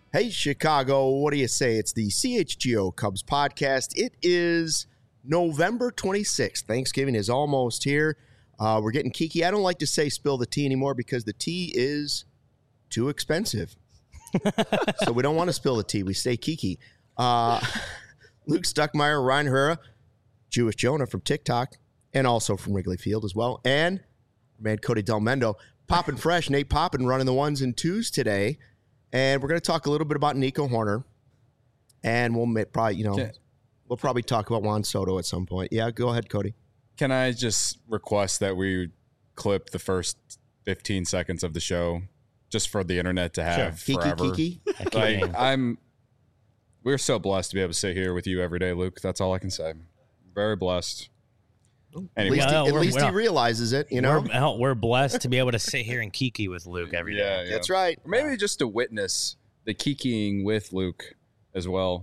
Hey, Chicago, what do you say? It's the CHGO Cubs podcast. It is November 26th. Thanksgiving is almost here. We're getting kiki. I don't like to say spill the tea anymore because the tea is too expensive. So we don't want to spill the tea. We stay kiki. Luke Stuckmeyer, Ryan Hura, Jewish Jonah from TikTok, and also from Wrigley Field as well. And man, Cody Del Mendo, Poppin' Fresh, Nate Poppin running the ones and twos today. And we're going to talk a little bit about Nico Hoerner. And we'll probably, we'll probably talk about Juan Soto at some point. Yeah, go ahead, Cody. Can I just request that we clip the first 15 seconds of the show just for the internet to have forever? Kiki. We're so blessed to be able to sit here with you every day, Luke. That's all I can say. Very blessed. Anyway. At least he realizes it, We're blessed to be able to sit here and kiki with Luke every day. Yeah. That's right. Or maybe just to witness the kikiing with Luke as well.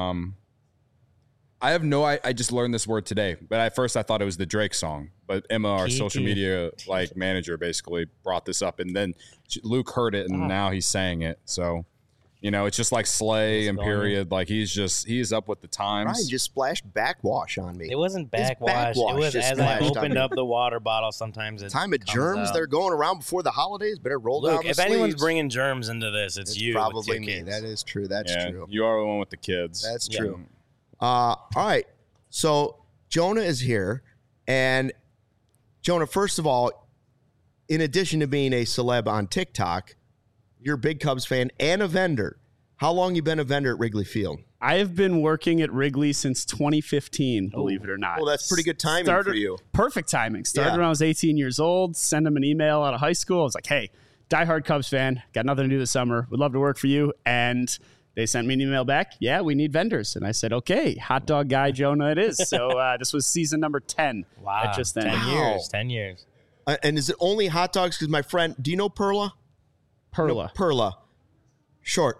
I just learned this word today, but at first I thought it was the Drake song. But Emma, our social media manager, basically brought this up, and then Luke heard it, and now he's saying it. So, it's just like Slay and period. Like he's up with the times. Ryan just splashed backwash on me. It wasn't backwash. It was as I opened up the water bottle. Sometimes it time of germs they're going around before the holidays. Better roll down the if sleeves. Anyone's bringing germs into this, it's you. Probably me. Kids. That is true. That's true. You are the one with the kids. That's true. All right. So Jonah is here, and Jonah, first of all, in addition to being a celeb on TikTok, you're a big Cubs fan and a vendor. How long you been a vendor at Wrigley Field? I have been working at Wrigley since 2015, believe it or not. Well, that's pretty good timing for you. Perfect timing. Started when I was 18 years old, sent them an email out of high school. I was like, hey, diehard Cubs fan, got nothing to do this summer. Would love to work for you. And they sent me an email back. Yeah, we need vendors. And I said, okay, hot dog guy Jonah it is. So this was season number 10. Wow. At just then. 10 years. And is it only hot dogs? Because my friend, do you know Perla? Perla. Perla. Short.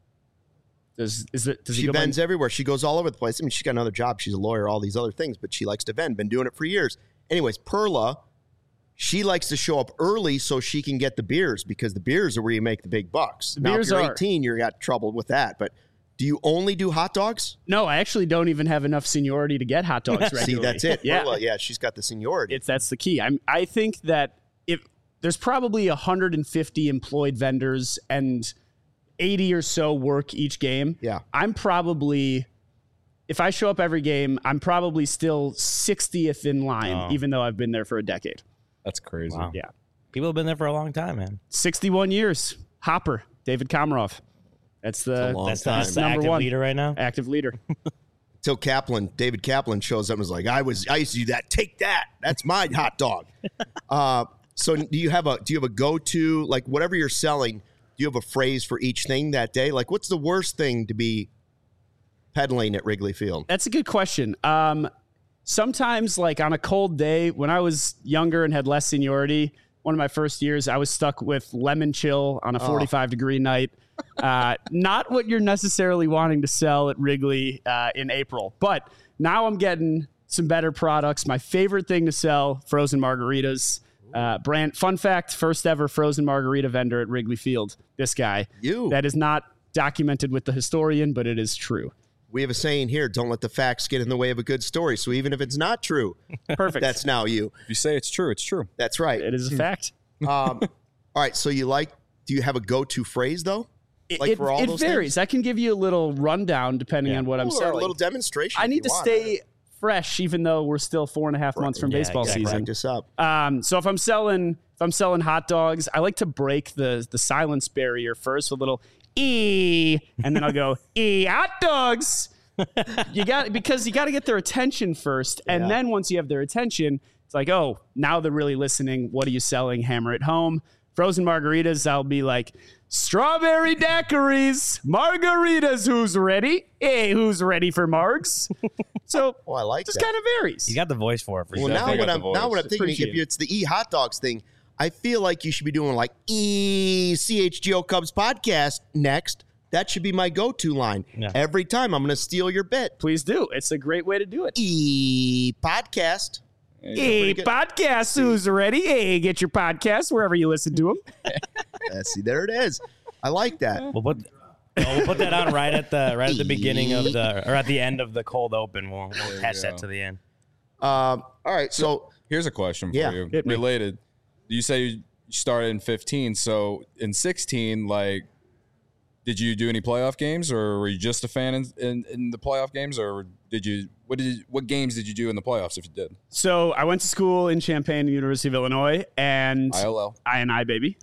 She vends everywhere. She goes all over the place. I mean, she's got another job. She's a lawyer, all these other things, but she likes to vend. Been doing it for years. Anyways, Perla, she likes to show up early so she can get the beers because the beers are where you make the big bucks. Now, if you're 18, you got trouble with that. But do you only do hot dogs? No, I actually don't even have enough seniority to get hot dogs regularly. See, that's it. Yeah. Perla, she's got the seniority. That's the key. I think that if there's probably 150 employed vendors and 80 or so work each game. Yeah. I'm probably, if I show up every game, I'm probably still 60th in line, even though I've been there for a decade. That's crazy. Wow. Yeah. People have been there for a long time, man. 61 years. Hopper, David Komarov. That's the number active one leader right now. Active leader. Till David Kaplan shows up and is like, I used to do that. Take that. That's my hot dog. So do you have a go-to, like whatever you're selling, do you have a phrase for each thing that day? Like, what's the worst thing to be peddling at Wrigley Field? That's a good question. Sometimes, like on a cold day, when I was younger and had less seniority, one of my first years, I was stuck with lemon chill on a 45-degree night. Not what you're necessarily wanting to sell at Wrigley in April. But now I'm getting some better products. My favorite thing to sell, frozen margaritas. Fun fact, first ever frozen margarita vendor at Wrigley Field. This guy. That is not documented with the historian, but it is true. We have a saying here, don't let the facts get in the way of a good story. So even if it's not true, perfect. That's now you. If you say it's true, it's true. That's right. It is a fact. All right. So do you have a go-to phrase though? It varies. Things? I can give you a little rundound depending on what I'm selling. A little demonstration. I need to stay fresh, even though we're still 4.5 months from baseball season. Practice up. So if I'm selling hot dogs, I like to break the silence barrier first with a little and then I'll go hot dogs. Because you got to get their attention first, and then once you have their attention, it's like, oh, now they're really listening. What are you selling? Hammer it home. Frozen margaritas, I'll be like, strawberry daiquiris, margaritas. Who's ready? Hey, who's ready for margs? So, I like just that. kind of varies. You got the voice for it. For well, sure. now what I'm thinking, if it's the hot dogs thing, I feel like you should be doing like CHGO Cubs podcast next. That should be my go-to line. Yeah. Every time I'm going to steal your bit. Please do. It's a great way to do it. Podcast. Hey, podcast. Who's ready? Hey, get your podcast wherever you listen to them. See, there it is. I like that. Well, We'll put that on right at the beginning of at the end of the cold open. We'll attach that to the end. All right. So here's a question for you. Related. You say you started in 15. So in 16, like, did you do any playoff games, or were you just a fan in the playoff games, or what games did you do in the playoffs if you did? So I went to school in Champaign, University of Illinois, and INI, baby.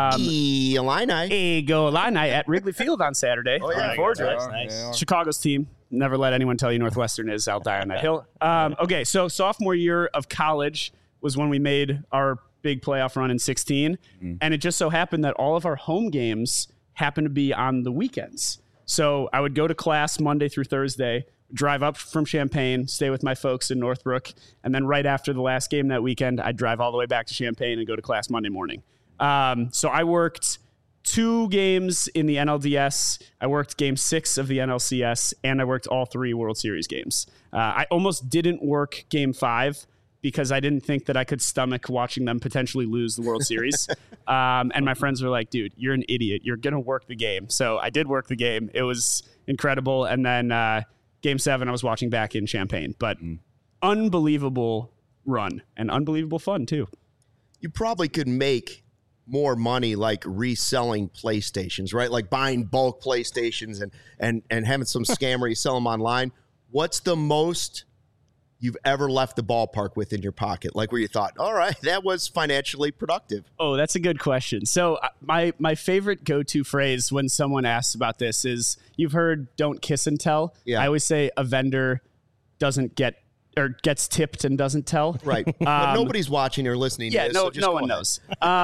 Illini. Go Illini at Wrigley Field on Saturday. Oh, yeah. Nice. Chicago's team. Never let anyone tell you Northwestern is. I'll die on that hill. Okay, so sophomore year of college was when we made our big playoff run in 16, and it just so happened that all of our home games happened to be on the weekends. So I would go to class Monday through Thursday, drive up from Champaign, stay with my folks in Northbrook, and then right after the last game that weekend, I'd drive all the way back to Champaign and go to class Monday morning. So I worked 2 games in the NLDS. I worked game 6 of the NLCS, and I worked all 3 World Series games. I almost didn't work game 5 because I didn't think that I could stomach watching them potentially lose the World Series. And my friends were like, dude, you're an idiot. You're going to work the game. So I did work the game. It was incredible. And then game 7, I was watching back in Champaign. But unbelievable run and unbelievable fun, too. You probably could make more money like reselling PlayStations, right? Like buying bulk PlayStations and having some scammer sell them online. What's the most you've ever left the ballpark with in your pocket? Like where you thought, all right, that was financially productive. Oh, that's a good question. So my favorite go-to phrase when someone asks about this is, you've heard don't kiss and tell. Yeah. I always say a vendor doesn't get or gets tipped and doesn't tell. Right. But nobody's watching or listening to this. No, so no one knows.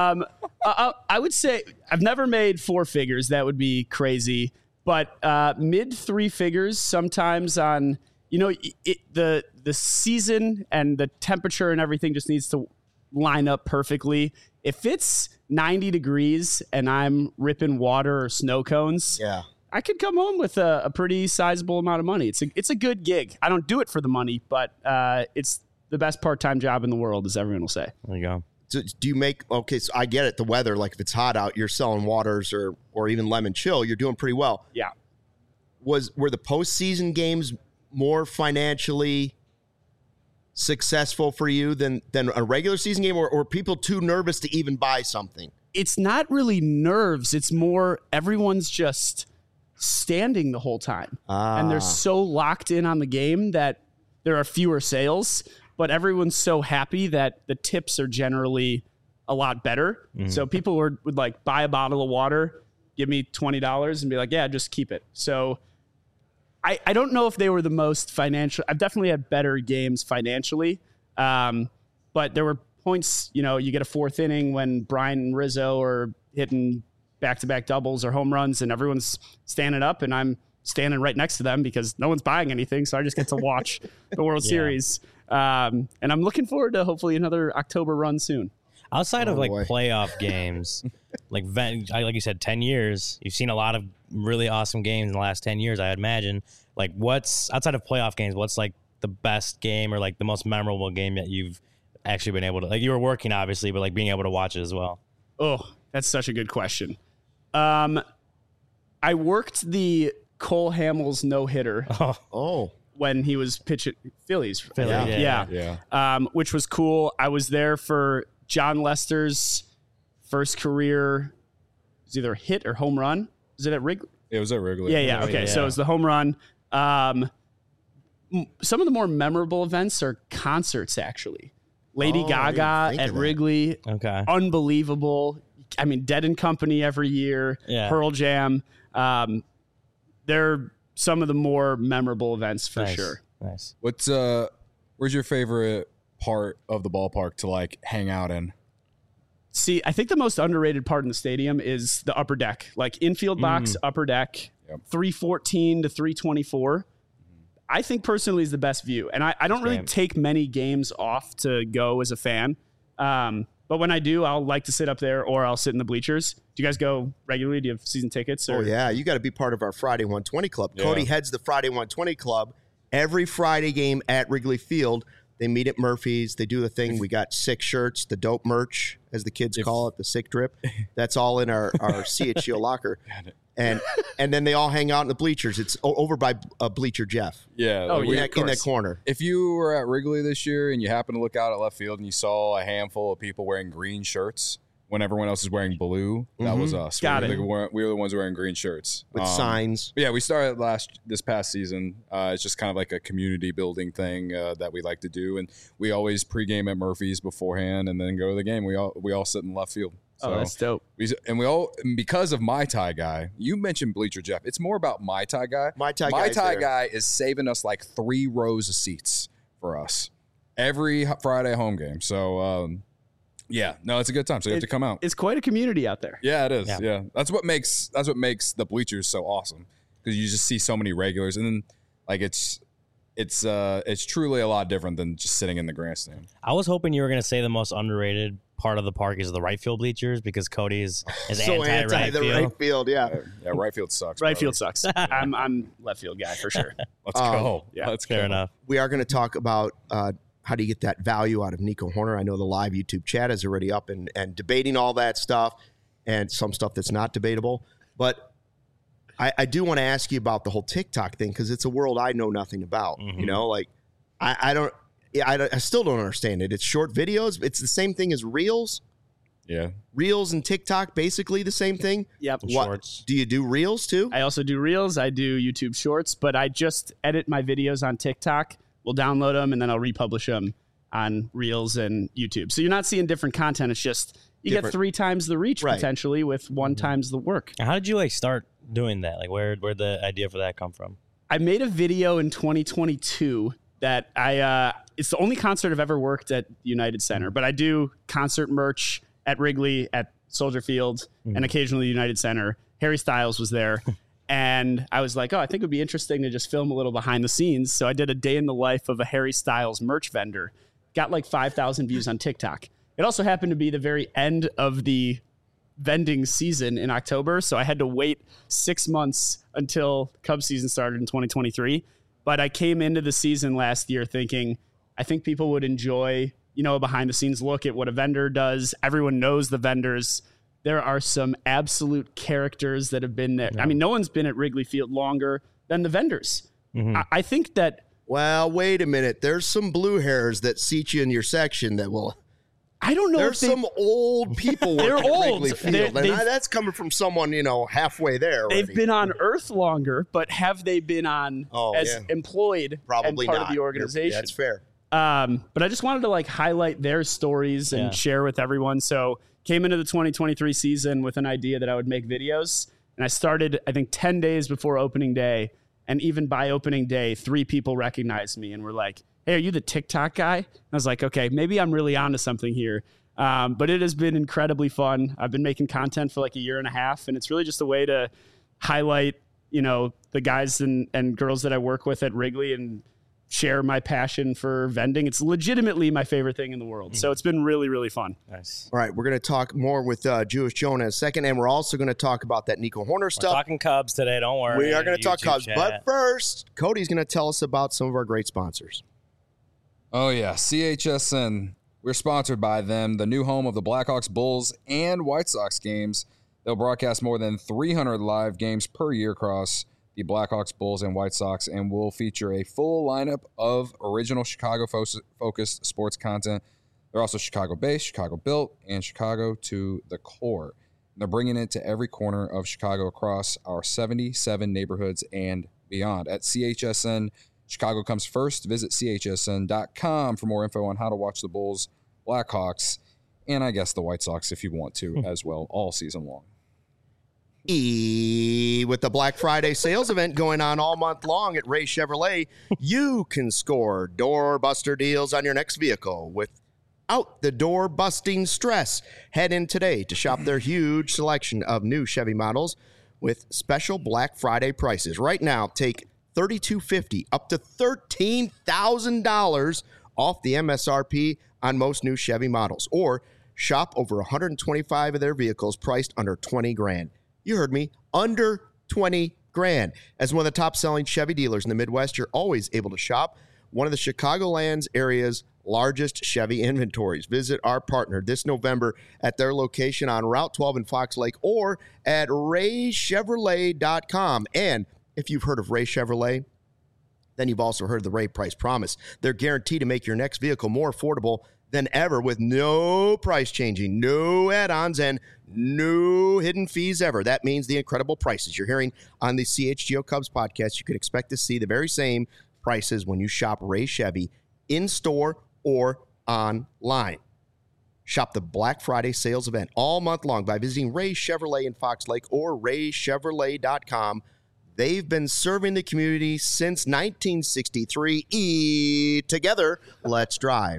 I would say I've never made 4 figures. That would be crazy. But mid 3 figures sometimes on, the season and the temperature and everything just needs to line up perfectly. If it's 90 degrees and I'm ripping water or snow cones, I could come home with a pretty sizable amount of money. It's a good gig. I don't do it for the money, but it's the best part-time job in the world, as everyone will say. There you go. So do you make, okay, so I get it, the weather, like if it's hot out, you're selling waters or even lemon chill, you're doing pretty well. Yeah. Were the postseason games more financially successful for you than a regular season game, or are people too nervous to even buy something? It's not really nerves. It's more everyone's just standing the whole time. And they're so locked in on the game that there are fewer sales, but everyone's so happy that the tips are generally a lot better. Mm-hmm. So people would like buy a bottle of water, give me $20 and be like, yeah, just keep it. So I don't know if they were the most financial. I've definitely had better games financially. But there were points, you get a 4th inning when Brian and Rizzo are hitting back-to-back doubles or home runs and everyone's standing up and I'm standing right next to them because no one's buying anything. So I just get to watch the World Series. And I'm looking forward to hopefully another October run soon. Outside of playoff games, like you said, 10 years, you've seen a lot of really awesome games in the last 10 years, I imagine. Like what's outside of playoff games, what's like the best game or like the most memorable game that you've actually been able to, like you were working obviously, but like being able to watch it as well? Oh, that's such a good question. I worked the Cole Hamels no-hitter. When he was pitching Phillies. Yeah. Which was cool. I was there for John Lester's first career. It was either hit or home run. Was it at Wrigley? It was at Wrigley. Yeah. Okay. So it was the home run. Some of the more memorable events are concerts, actually. Lady Gaga at Wrigley. Okay. Unbelievable. I mean, Dead and Company every year. Yeah. Pearl Jam. They're some of the more memorable events for sure. Nice. Where's your favorite part of the ballpark to like hang out in? See, I think the most underrated part in the stadium is the upper deck, like infield box, upper deck, 314 to 324. I think personally is the best view. And I don't really take many games off to go as a fan. But when I do, I'll like to sit up there or I'll sit in the bleachers. Do you guys go regularly? Do you have season tickets? Or? Oh, yeah. You got to be part of our Friday 120 Club. Yeah. Cody heads the Friday 120 Club. Every Friday game at Wrigley Field, they meet at Murphy's. They do the thing. We got sick shirts, the dope merch, as the kids call it, the sick drip. That's all in our CHGO locker. and then they all hang out in the bleachers. It's over by Bleacher Jeff. Yeah. Oh, like, yeah. In that corner. If you were at Wrigley this year and you happen to look out at left field and you saw a handful of people wearing green shirts when everyone else is wearing blue, that was us. Got we were the ones wearing green shirts With signs. Yeah, we started this past season. It's just kind of like a community building thing that we like to do, and we always pregame at Murphy's beforehand and then go to the game. We all sit in left field. So Oh, that's dope. Because of My Thai Guy, you mentioned Bleacher Jeff. It's more about My Thai Guy. My Thai Guy is saving us like 3 rows of seats for us every Friday home game. So, yeah, no, it's a good time. So you have to come out. It's quite a community out there. Yeah, it is. Yeah. That's what makes the bleachers so awesome, because you just see so many regulars, and then like it's truly a lot different than just sitting in the grandstand. I was hoping you were going to say the most underrated part of the park is the right field bleachers, because Cody is So anti the right field, yeah. Yeah, right field sucks. Right brother. field sucks. I'm left field guy for sure. Let's go. Yeah, Let's Fair go. enough. We are going to talk about how do you get that value out of Nico Horner. I know the live YouTube chat is already up and debating all that stuff and some stuff that's not debatable. But I do want to ask you about the whole TikTok thing, because it's a world I know nothing about. You know, like I still don't understand it. It's short videos. It's the same thing as Reels. Yeah. Reels and TikTok, basically the same thing. Yep. Shorts. Do you do Reels too? I also do Reels. I do YouTube Shorts, but I just edit my videos on TikTok. We'll download them and then I'll republish them on Reels and YouTube. So you're not seeing different content. It's just you get 3 times the reach Right. potentially with 1 times the work. How did you start doing that? Like where'd the idea for that come from? I made a video in 2022 that it's the only concert I've ever worked at United Center, but I do concert merch at Wrigley, at Soldier Field, and occasionally United Center. Harry Styles was there. And I was like, I think it would be interesting to just film a little behind the scenes. So I did a day in the life of a Harry Styles merch vendor. Got like 5,000 views on TikTok. It also happened to be the very end of the vending season in October. So I had to wait 6 months until Cubs season started in 2023. But I came into the season last year thinking, I think people would enjoy, a behind the scenes look at what a vendor does. Everyone knows the vendors. There are some absolute characters that have been there. I mean, no one's been at Wrigley Field longer than the vendors. I think that. Well, wait a minute. There's some blue hairs that seat you in your section that will. I don't know. There's some old people working They're at old. Wrigley Field, and that's coming from someone halfway there. They've already. been on Earth longer, but have they been on employed Probably and part not. of the organization? That's fair. But I just wanted to highlight their stories and share with everyone. So came into the 2023 season with an idea that I would make videos, and I started, I think, 10 days before opening day. And even by opening day, 3 people recognized me and were like, "Hey, are you the TikTok guy?" And I was like, "Okay, maybe I'm really onto something here." But it has been incredibly fun. I've been making content for like a year and a half, and it's really just a way to highlight, the guys and girls that I work with at Wrigley and share my passion for vending. It's legitimately my favorite thing in the world. So it's been really, really fun. Nice. All right, we're going to talk more with Jewish Jonah in a second, and we're also going to talk about that Nico Horner We're stuff. talking Cubs today. Don't worry. We are going to talk YouTube Cubs, chat. but first, Cody's going to tell us about some of our great sponsors. Oh, yeah. CHSN. We're sponsored by them, the new home of the Blackhawks, Bulls, and White Sox games. They'll broadcast more than 300 live games per year across the Blackhawks, Bulls, and White Sox, and will feature a full lineup of original Chicago-focused sports content. They're also Chicago-based, Chicago-built, and Chicago to the core. They're bringing it to every corner of Chicago across our 77 neighborhoods and beyond. At CHSN, Chicago comes first. Visit chsn.com for more info on how to watch the Bulls, Blackhawks, and I guess the White Sox if you want to as well all season long. With the Black Friday sales event going on all month long at Ray Chevrolet, you can score doorbuster deals on your next vehicle without the door-busting stress. Head in today to shop their huge selection of new Chevy models with special Black Friday prices. Right now, take $3,250 up to $13,000 off the MSRP on most new Chevy models, or shop over 125 of their vehicles priced under $20,000. You heard me, under $20,000. As one of the top-selling Chevy dealers in the Midwest, you're always able to shop one of the Chicagoland's area's largest Chevy inventories. Visit our partner this November at their location on Route 12 in Fox Lake or at raychevrolet.com. And if you've heard of Ray Chevrolet, then you've also heard of the Ray Price Promise. They're guaranteed to make your next vehicle more affordable than ever with no price changing, no add-ons, and no hidden fees ever. That means the incredible prices you're hearing on the CHGO Cubs podcast. You can expect to see the very same prices when you shop Ray Chevy in-store or online. Shop the Black Friday sales event all month long by visiting Ray Chevrolet in Fox Lake or raychevrolet.com. They've been serving the community since 1963. Together, let's drive.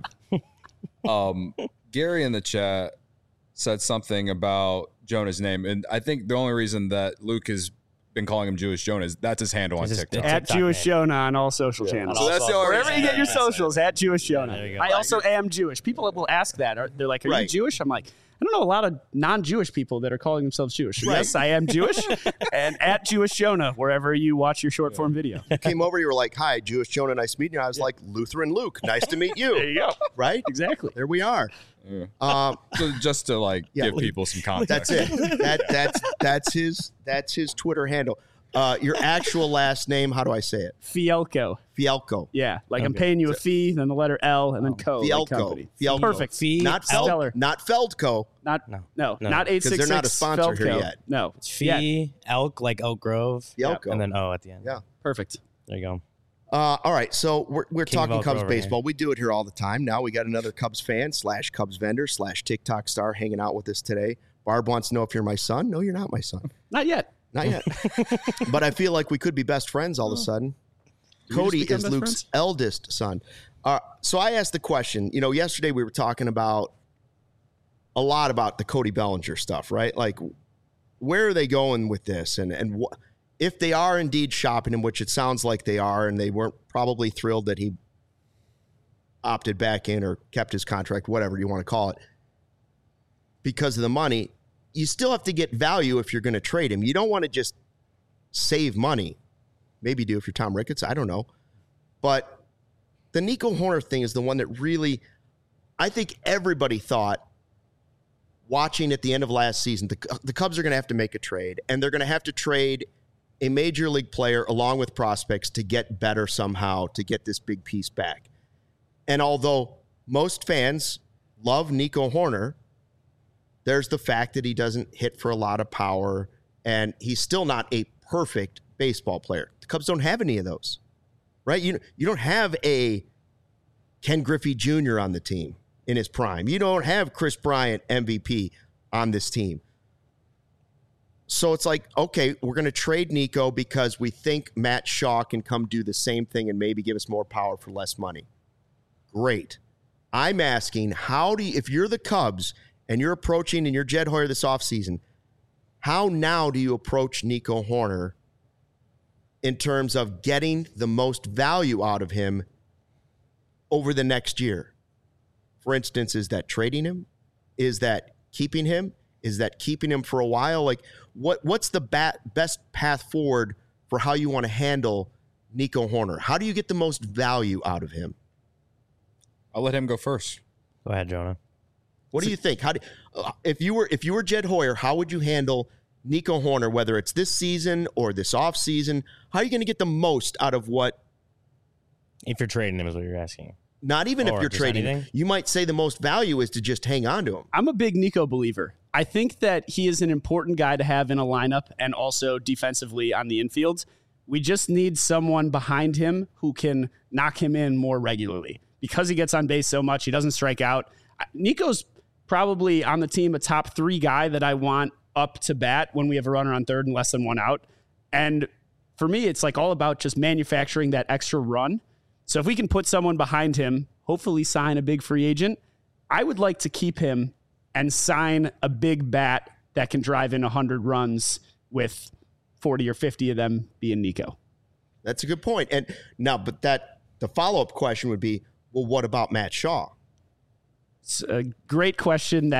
Gary in the chat said something about Jonah's name, and I think the only reason that Luke has been calling him Jewish Jonah is that's his handle on TikTok. At Jewish Jonah on all social channels. So that's the only Wherever you get your socials, at Jewish Jonah. There you go. I also am Jewish. People will ask that. They're like, are you Right. Jewish? I'm like, I don't know a lot of non-Jewish people that are calling themselves Jewish. So Right. yes, I am Jewish. And at Jewish Jonah, wherever you watch your short form video. Came over, you were like, hi, Jewish Jonah, nice meeting you. I was like, Lutheran Luke, nice to meet you. There you go. Right? Exactly. There we are. Yeah. Um, So just to Yeah. give people some context. That's it. That's his Twitter handle. Your actual last name, how do I say it? Fielko. Fielko. Yeah. Like I'm paying you a fee, then the letter L, and then co. Like Fielko. company. Fielko. Perfect. Fee, Not Stellar. Feldco. Not No. not 866. Because they're not a sponsor here Feldco. yet. No. Fee, elk, like Elk Grove. Fielko. And then O at the end. Yeah. Perfect. There you go. All right, so we're King of talking Elk Cubs Grove baseball. We do it here all the time. Now we got another Cubs fan / Cubs vendor / TikTok star hanging out with us today. Barb wants to know if you're my son. No, you're not my son. Not yet. Not yet. But I feel like we could be best friends all of a sudden. we just Cody become is best Luke's friends? eldest son. So I asked the question, yesterday we were talking about a lot about the Cody Bellinger stuff, right? Like, where are they going with this? And if they are indeed shopping him, which it sounds like they are, and they weren't probably thrilled that he opted back in or kept his contract, whatever you want to call it, because of the money, you still have to get value if you're going to trade him. You don't want to just save money. Maybe do if you're Tom Ricketts. I don't know. But the Nico Hoerner thing is the one that really, I think everybody thought, watching at the end of last season, the Cubs are going to have to make a trade, and they're going to have to trade a major league player along with prospects to get better somehow, to get this big piece back. And although most fans love Nico Hoerner, there's the fact that he doesn't hit for a lot of power, and he's still not a perfect baseball player. The Cubs don't have any of those, right? You don't have a Ken Griffey Jr. on the team in his prime. You don't have Chris Bryant MVP on this team. So it's like, okay, we're going to trade Nico because we think Matt Shaw can come do the same thing and maybe give us more power for less money. Great. I'm asking, if you're the Cubs and you're approaching and you're Jed Hoyer this offseason, how now do you approach Nico Hoerner in terms of getting the most value out of him over the next year? For instance, is that trading him? Is that keeping him? Is that keeping him for a while? Like, what's the best path forward for how you want to handle Nico Hoerner? How do you get the most value out of him? I'll let him go first. Go ahead, Jonah. What do you think? If you were Jed Hoyer, how would you handle Nico Hoerner, whether it's this season or this offseason? How are you going to get the most out of what? If you're trading him is what you're asking. Not even if Or you're just trading. anything? You might say the most value is to just hang on to him. I'm a big Nico believer. I think that he is an important guy to have in a lineup and also defensively on the infield. We just need someone behind him who can knock him in more regularly. Because he gets on base so much, he doesn't strike out. Nico's probably on the team a top 3 guy that I want up to bat when we have a runner on third and less than one out. And for me, it's like all about just manufacturing that extra run. So if we can put someone behind him, hopefully sign a big free agent, I would like to keep him and sign a big bat that can drive in 100 runs with 40 or 50 of them being Nico. That's a good point. And now, but the follow-up question would be, well, what about Matt Shaw? It's a great question that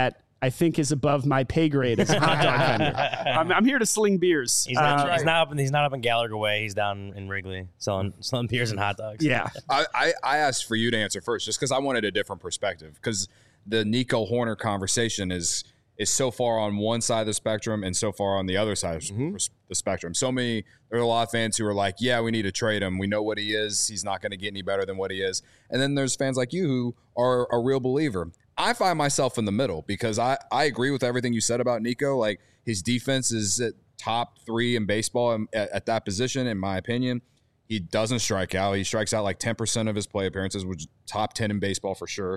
I think is above my pay grade as a hot dog vendor. I'm here to sling beers. He's not up in Gallagher Way. He's down in Wrigley selling beers and hot dogs. Yeah. I asked for you to answer first just because I wanted a different perspective, because the Nico Hoerner conversation is so far on one side of the spectrum and so far on the other side of the spectrum. There are a lot of fans who are like, yeah, we need to trade him. We know what he is. He's not going to get any better than what he is. And then there's fans like you who are a real believer. I find myself in the middle because I agree with everything you said about Nico. Like, his defense is at top 3 in baseball at that position, in my opinion. He doesn't strike out. He strikes out like 10% of his play appearances, which is top 10 in baseball for sure.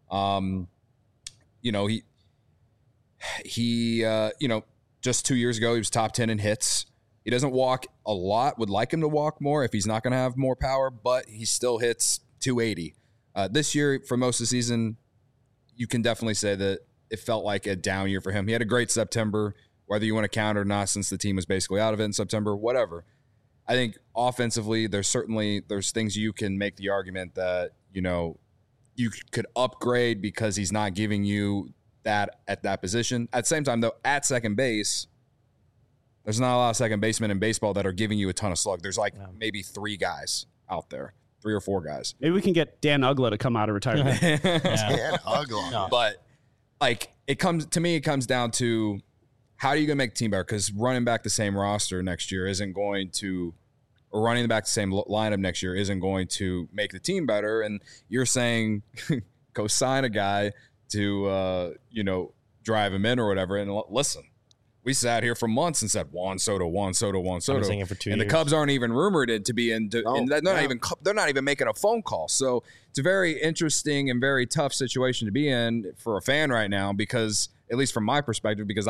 He just 2 years ago, he was top 10 in hits. He doesn't walk a lot. Would like him to walk more if he's not going to have more power, but he still hits 280. This year, for most of the season, you can definitely say that it felt like a down year for him. He had a great September, whether you want to count it or not, since the team was basically out of it in September, whatever. I think offensively, there's things you can make the argument that, you could upgrade because he's not giving you that at that position. At the same time, though, at second base, there's not a lot of second basemen in baseball that are giving you a ton of slug. There's maybe 3 guys out there. 3 or 4 guys. Maybe we can get Dan Uggla to come out of retirement. Dan Uggla. No. But it comes down to, how are you going to make the team better? Because running back the same roster next year or running back the same lineup next year isn't going to make the team better. And you're saying go sign a guy to drive him in or whatever. And listen, we sat here for months and said Juan Soto. I've been saying it for 2 years. And the Cubs aren't even rumored to be in. They're not even making a phone call. So it's a very interesting and very tough situation to be in for a fan right now, because, at least from my perspective, because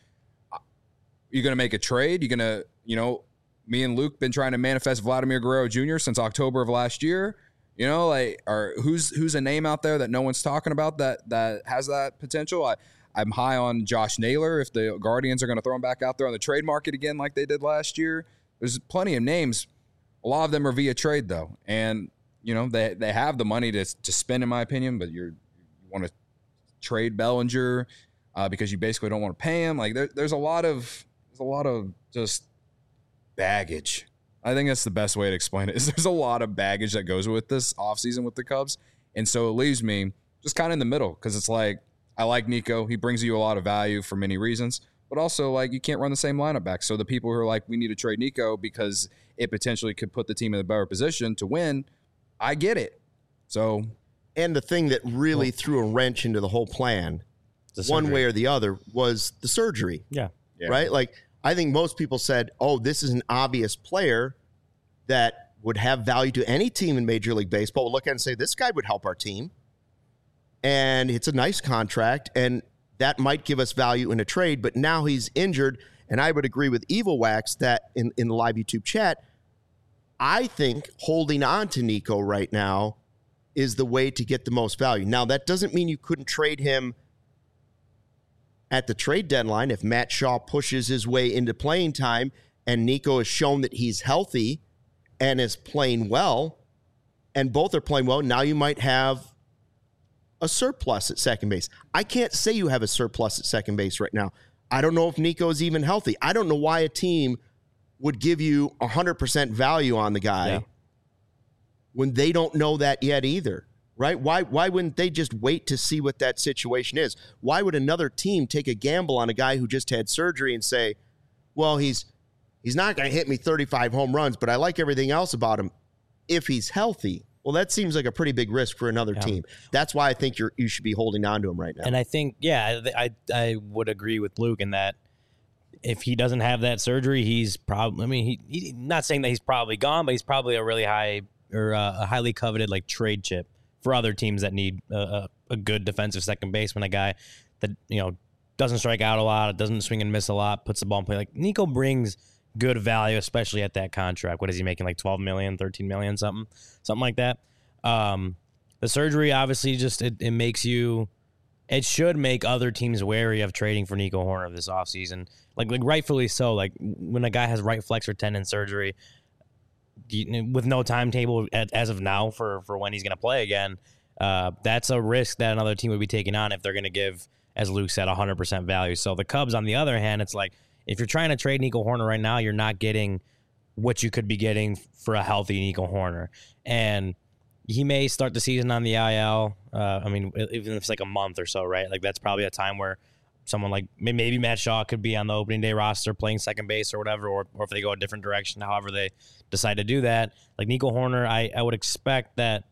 you're going to make a trade. You're going to, me and Luke been trying to manifest Vladimir Guerrero Jr. since October of last year. Who's a name out there that no one's talking about that has that potential? I'm high on Josh Naylor if the Guardians are going to throw him back out there on the trade market again like they did last year. There's plenty of names. A lot of them are via trade, though. And, they have the money to spend, in my opinion, but you want to trade Bellinger because you basically don't want to pay him. Like, there's a lot of just baggage. I think that's the best way to explain it, is there's a lot of baggage that goes with this offseason with the Cubs. And so it leaves me just kind of in the middle, because it's like, I like Nico. He brings you a lot of value for many reasons, but also, you can't run the same lineup back. So the people who are like, we need to trade Nico because it potentially could put the team in a better position to win, I get it. So, and the thing that really threw a wrench into the whole plan, one way or the other, was the surgery. Yeah. Right? Like, I think most people said, oh, this is an obvious player that would have value to any team in Major League Baseball. We'll look at it and say, this guy would help our team. And it's a nice contract, and that might give us value in a trade. But now he's injured, and I would agree with Evil Wax that in the live YouTube chat, I think holding on to Nico right now is the way to get the most value. Now, that doesn't mean you couldn't trade him at the trade deadline if Matt Shaw pushes his way into playing time and Nico has shown that he's healthy and is playing well, and both are playing well. Now you might have a surplus at second base. I can't say you have a surplus at second base right now. I don't know if Nico is even healthy. I don't know why a team would give you 100% value on the guy when they don't know that yet either, right? Why wouldn't they just wait to see what that situation is? Why would another team take a gamble on a guy who just had surgery and say, well, he's not going to hit me 35 home runs, but I like everything else about him if he's healthy? Well, that seems like a pretty big risk for another team. That's why I think you should be holding on to him right now. And I think, I would agree with Luke in that if he doesn't have that surgery, he's probably, he's not saying that he's probably gone, but he's probably a really high or a highly coveted trade chip for other teams that need a good defensive second baseman, a guy that, doesn't strike out a lot, doesn't swing and miss a lot, puts the ball in play. Like, Nico brings good value, especially at that contract. What is he making, $12 million, $13 million, something like that? The surgery obviously just it makes you. It should make other teams wary of trading for Nico Hoerner this offseason. Like rightfully so. Like, when a guy has right flexor tendon surgery, with no timetable as of now for when he's going to play again, that's a risk that another team would be taking on if they're going to give as Luke said, 100% value. So the Cubs, on the other hand, it's like if you're trying to trade Nico Hoerner right now, you're not getting what you could be getting for a healthy Nico Hoerner. And he may start the season on the IL. I mean, even if it's like a month or so, right? Like that's probably a time where someone like maybe Matt Shaw could be on the opening day roster playing second base or whatever, or if they go a different direction, however they decide to do that. Like Nico Hoerner, I would expect that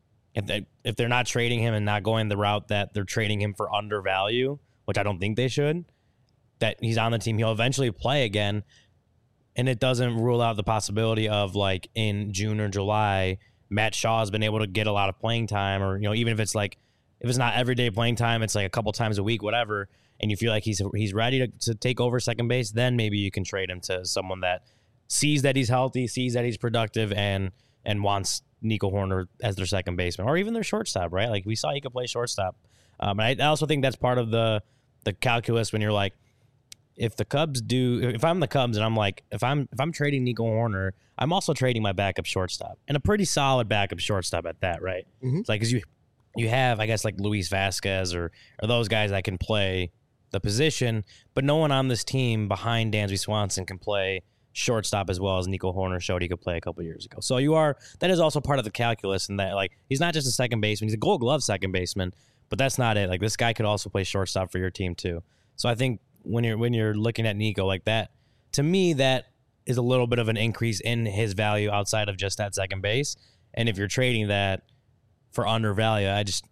if they're not trading him and not going the route that they're trading him for undervalue, which I don't think they should, that he's on the team, he'll eventually play again. And it doesn't rule out the possibility of like in June or July, Matt Shaw has been able to get a lot of playing time, or, you know, even if it's like, if it's not everyday playing time, it's like a couple times a week, whatever, and you feel like he's ready to take over second base, then maybe you can trade him to someone that sees that he's healthy, sees that he's productive, and wants Nico Hoerner as their second baseman, or even their shortstop, right? Like we saw he could play shortstop. And I also think that's part of the calculus when you're like, if I'm the Cubs and I'm like, if I'm trading Nico Hoerner, I'm also trading my backup shortstop, and a pretty solid backup shortstop at that, right? Mm-hmm. It's like, because you have, I guess, like Luis Vasquez or those guys that can play the position, but no one on this team behind Dansby Swanson can play shortstop as well as Nico Hoerner showed he could play a couple years ago. So that is also part of the calculus, in that like he's not just a second baseman, he's a Gold Glove second baseman, but that's not it. Like this guy could also play shortstop for your team too. So I think when you're looking at Nico like that, to me that is a little bit of an increase in his value outside of just that second base. And if you're trading that for undervalue,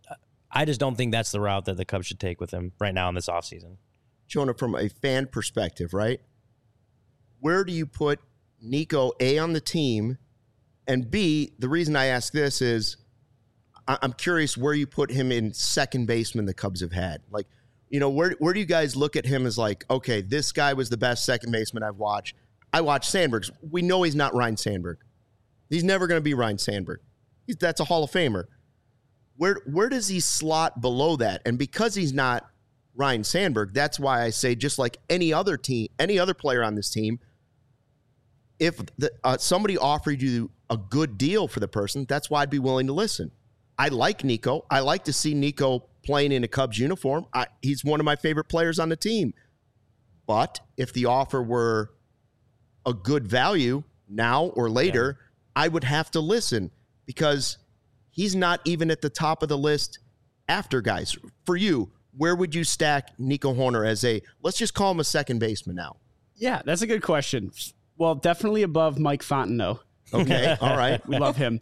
I just don't think that's the route that the Cubs should take with him right now in this offseason. Jonah, from a fan perspective, right? Where do you put Nico, A, on the team, and B, the reason I ask this is I'm curious where you put him in second baseman the Cubs have had. Like, you know, where do you guys look at him as like, okay, this guy was the best second baseman I've watched. I watched Sandberg. We know he's not Ryne Sandberg. He's never going to be Ryne Sandberg. That's a Hall of Famer. Where does he slot below that? And because he's not Ryne Sandberg, that's why I say, just like any other player on this team, if somebody offered you a good deal for the person, that's why I'd be willing to listen. I like Nico. I like to see Nico playing in a Cubs uniform. He's one of my favorite players on the team. But if the offer were a good value now or later, I would have to listen, because he's not even at the top of the list after guys. For you, where would you stack Nico Hoerner as let's just call him a second baseman now? Yeah, that's a good question. Well, definitely above Mike Fontenot. Okay, all right. We love him.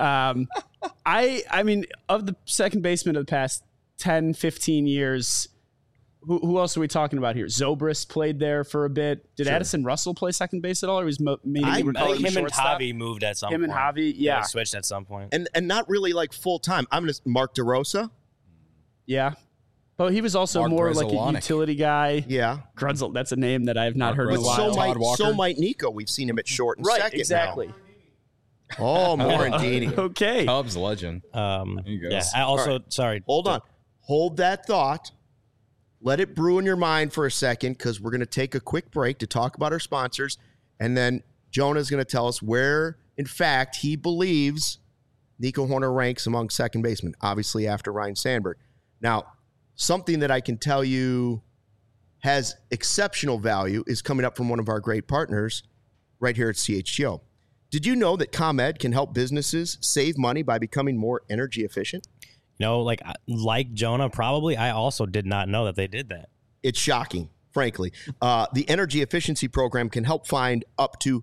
I mean, of the second baseman of the past 10, 15 years, who else are we talking about here? Zobrist played there for a bit. Did Addison Russell play second base at all? Or was I think him and Javi moved at some point. Him and Javi, yeah. They switched at some point. And not really like full time. Mark DeRosa. Yeah. But he was also more like a utility guy. Yeah. Grunzel, that's a name that I have not heard in a while. So might Nico. We've seen him at short and second. Exactly. Now. Oh, Morandini. Okay. Cubs legend. Yeah. I also, sorry. Hold on. Hold that thought. Let it brew in your mind for a second, because we're going to take a quick break to talk about our sponsors. And then Jonah's going to tell us where, in fact, he believes Nico Hoerner ranks among second basemen, obviously after Ryne Sandberg. Now, something that I can tell you has exceptional value is coming up from one of our great partners right here at CHGO. Did you know that ComEd can help businesses save money by becoming more energy efficient? No, like Jonah, probably. I also did not know that they did that. It's shocking, frankly. The energy efficiency program can help find up to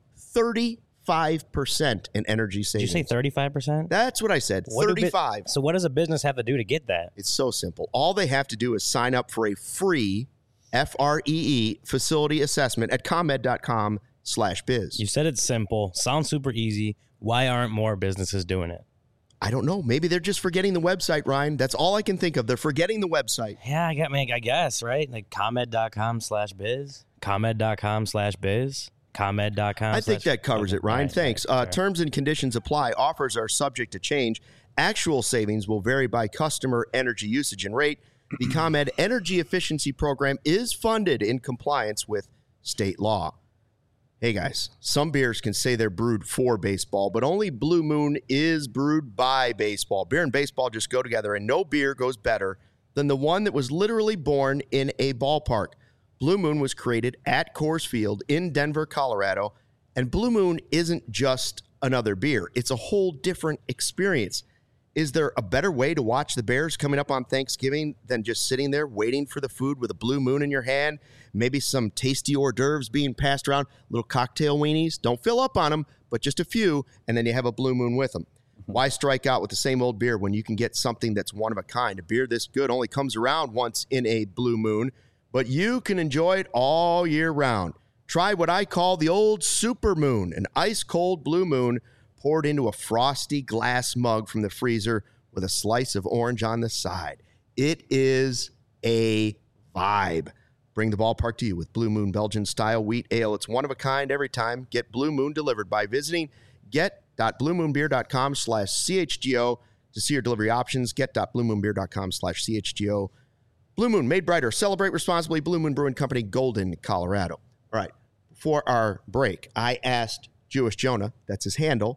35% in energy savings. Did you say 35%? That's what I said, 35. So what does a business have to do to get that? It's so simple. All they have to do is sign up for a free FREE facility assessment at ComEd.com/biz. You said it's simple. Sounds super easy. Why aren't more businesses doing it? I don't know. Maybe they're just forgetting the website, Ryan. That's all I can think of. They're forgetting the website. Yeah, I guess, right? Like ComEd.com/biz, ComEd.com/biz, ComEd.com. I think that covers it, Ryan. Thanks. Terms and conditions apply. Offers are subject to change. Actual savings will vary by customer energy usage and rate. The ComEd Energy Efficiency Program is funded in compliance with state law. Hey guys, some beers can say they're brewed for baseball, but only Blue Moon is brewed by baseball. Beer and baseball just go together, and no beer goes better than the one that was literally born in a ballpark. Blue Moon was created at Coors Field in Denver, Colorado, and Blue Moon isn't just another beer. It's a whole different experience. Is there a better way to watch the Bears coming up on Thanksgiving than just sitting there waiting for the food with a Blue Moon in your hand? Maybe some tasty hors d'oeuvres being passed around, little cocktail weenies. Don't fill up on them, but just a few, and then you have a Blue Moon with them. Why strike out with the same old beer when you can get something that's one of a kind? A beer this good only comes around once in a Blue Moon, but you can enjoy it all year round. Try what I call the old Super Moon, an ice-cold Blue Moon poured into a frosty glass mug from the freezer with a slice of orange on the side. It is a vibe. Bring the ballpark to you with Blue Moon Belgian-style wheat ale. It's one of a kind every time. Get Blue Moon delivered by visiting get.bluemoonbeer.com/CHGO to see your delivery options. Get.bluemoonbeer.com/CHGO. Blue Moon, made brighter. Celebrate responsibly. Blue Moon Brewing Company, Golden, Colorado. All right. Before our break, I asked Jewish Jonah, that's his handle.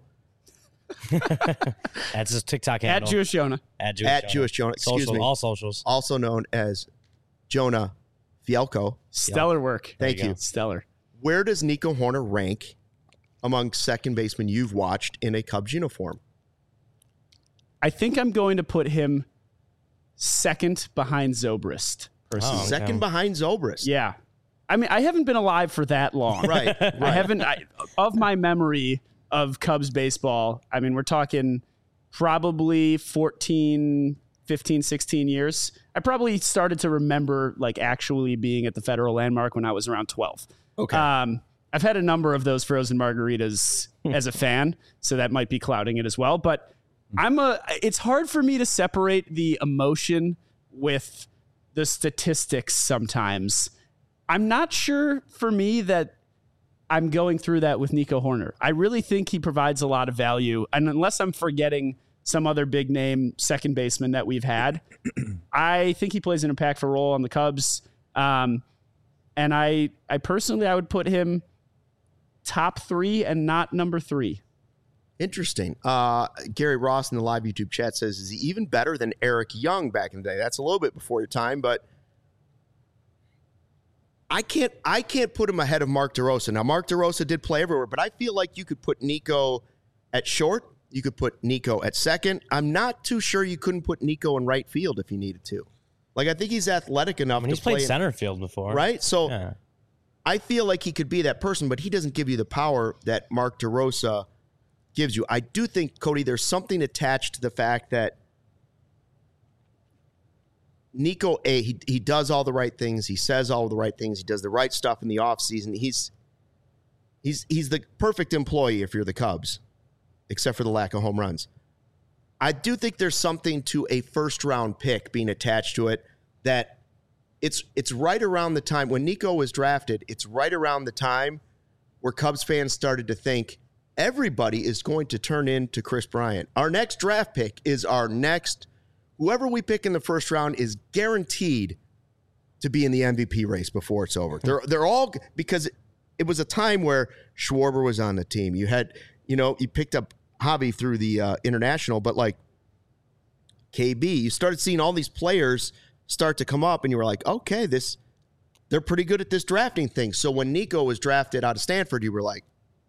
That's his TikTok handle. At Jewish Jonah. At Jewish Jonah. Excuse me. All socials. Also known as Jonah Fielko. Stellar work. Thank you. Stellar. Where does Nico Horner rank among second basemen you've watched in a Cubs uniform? I think I'm going to put him second behind Zobrist. Personally. Second behind Zobrist. Yeah. I mean, I haven't been alive for that long. Right. I haven't, of my memory of Cubs baseball, I mean, we're talking probably 14, 15, 16 years. I probably started to remember like actually being at the Federal Landmark when I was around 12. Okay. I've had a number of those frozen margaritas as a fan, so that might be clouding it as well. But it's hard for me to separate the emotion with the statistics sometimes. I'm not sure for me that I'm going through that with Nico Horner. I really think he provides a lot of value. And unless I'm forgetting some other big name second baseman that we've had, I think he plays an impactful role on the Cubs. And I personally, I would put him top 3 and not number 3. Interesting. Gary Ross in the live YouTube chat says, is he even better than Eric Young back in the day? That's a little bit before your time, but I can't put him ahead of Mark DeRosa. Now, Mark DeRosa did play everywhere, but I feel like you could put Nico at short. You could put Nico at second. I'm not too sure you couldn't put Nico in right field if you needed to. Like, I think he's athletic enough to play. He's played center field before. Right? So yeah. I feel like he could be that person, but he doesn't give you the power that Mark DeRosa gives you. I do think, Cody, there's something attached to the fact that Nico, he does all the right things. He says all the right things. He does the right stuff in the offseason. He's the perfect employee if you're the Cubs, except for the lack of home runs. I do think there's something to a first-round pick being attached to it that it's right around the time when Nico was drafted, it's right around the time where Cubs fans started to think everybody is going to turn into Chris Bryant. Our next draft pick is our next. Whoever we pick in the first round is guaranteed to be in the MVP race before it's over. They're all, because it was a time where Schwarber was on the team. You had, you picked up Javi through the international, but like KB, you started seeing all these players start to come up, and you were like, okay, they're pretty good at this drafting thing. So when Nico was drafted out of Stanford, you were like,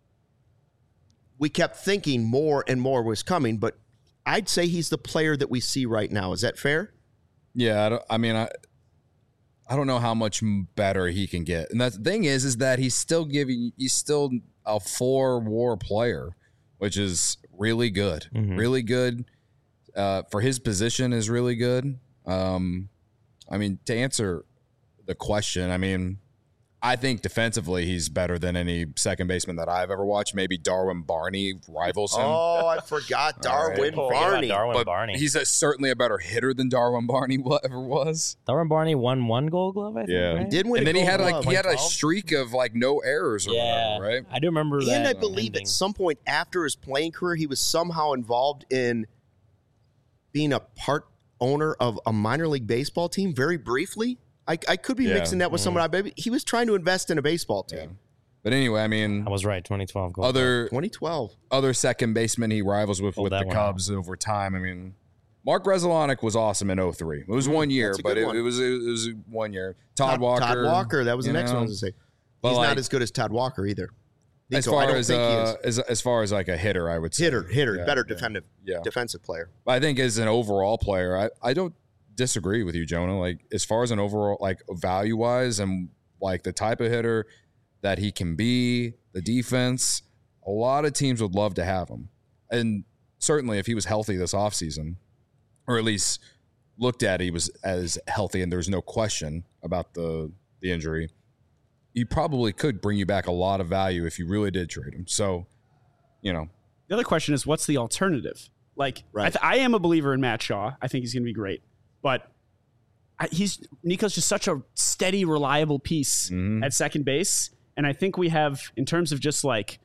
we kept thinking more and more was coming, but I'd say he's the player that we see right now. Is that fair? Yeah, I don't know how much better he can get. And the thing is that he's still a 4-WAR player, which is really good. Mm-hmm. Really good. For his position is really good. To answer the question, I think defensively he's better than any second baseman that I've ever watched. Maybe Darwin Barney rivals him. Oh, I forgot Darwin Barney. Darwin Barney. He's certainly a better hitter than Darwin Barney ever was. Darwin Barney won 1 Gold Glove, I think. Yeah, right? He did win. And then he had a 12? streak of like no errors or whatever, right? I do remember that. And I believe at some point after his playing career, he was somehow involved in being a part owner of a minor league baseball team very briefly. I could be mixing that with someone. He was trying to invest in a baseball team. Yeah. But anyway, I was right. 2012. 2012. Other second baseman he rivals with the Cubs over time. Mark Reselanek was awesome in 03. It was 1 year, but it was 1 year. Todd Walker. Todd Walker. That was the next one I was going to say. He's not as good as Todd Walker either. Nico, as far as like a hitter, I would say. Hitter, better defensive player. I think as an overall player, I don't disagree with you, Jonah. Like as far as an overall, like value wise and like the type of hitter that he can be, the defense, a lot of teams would love to have him. And certainly if he was healthy this offseason, or at least looked at he was as healthy and there's no question about the injury, he probably could bring you back a lot of value if you really did trade him. So, the other question is, what's the alternative? Like, right. I am a believer in Matt Shaw. I think he's going to be great, but Nico's just such a steady, reliable piece at second base. And I think we have, in terms of just like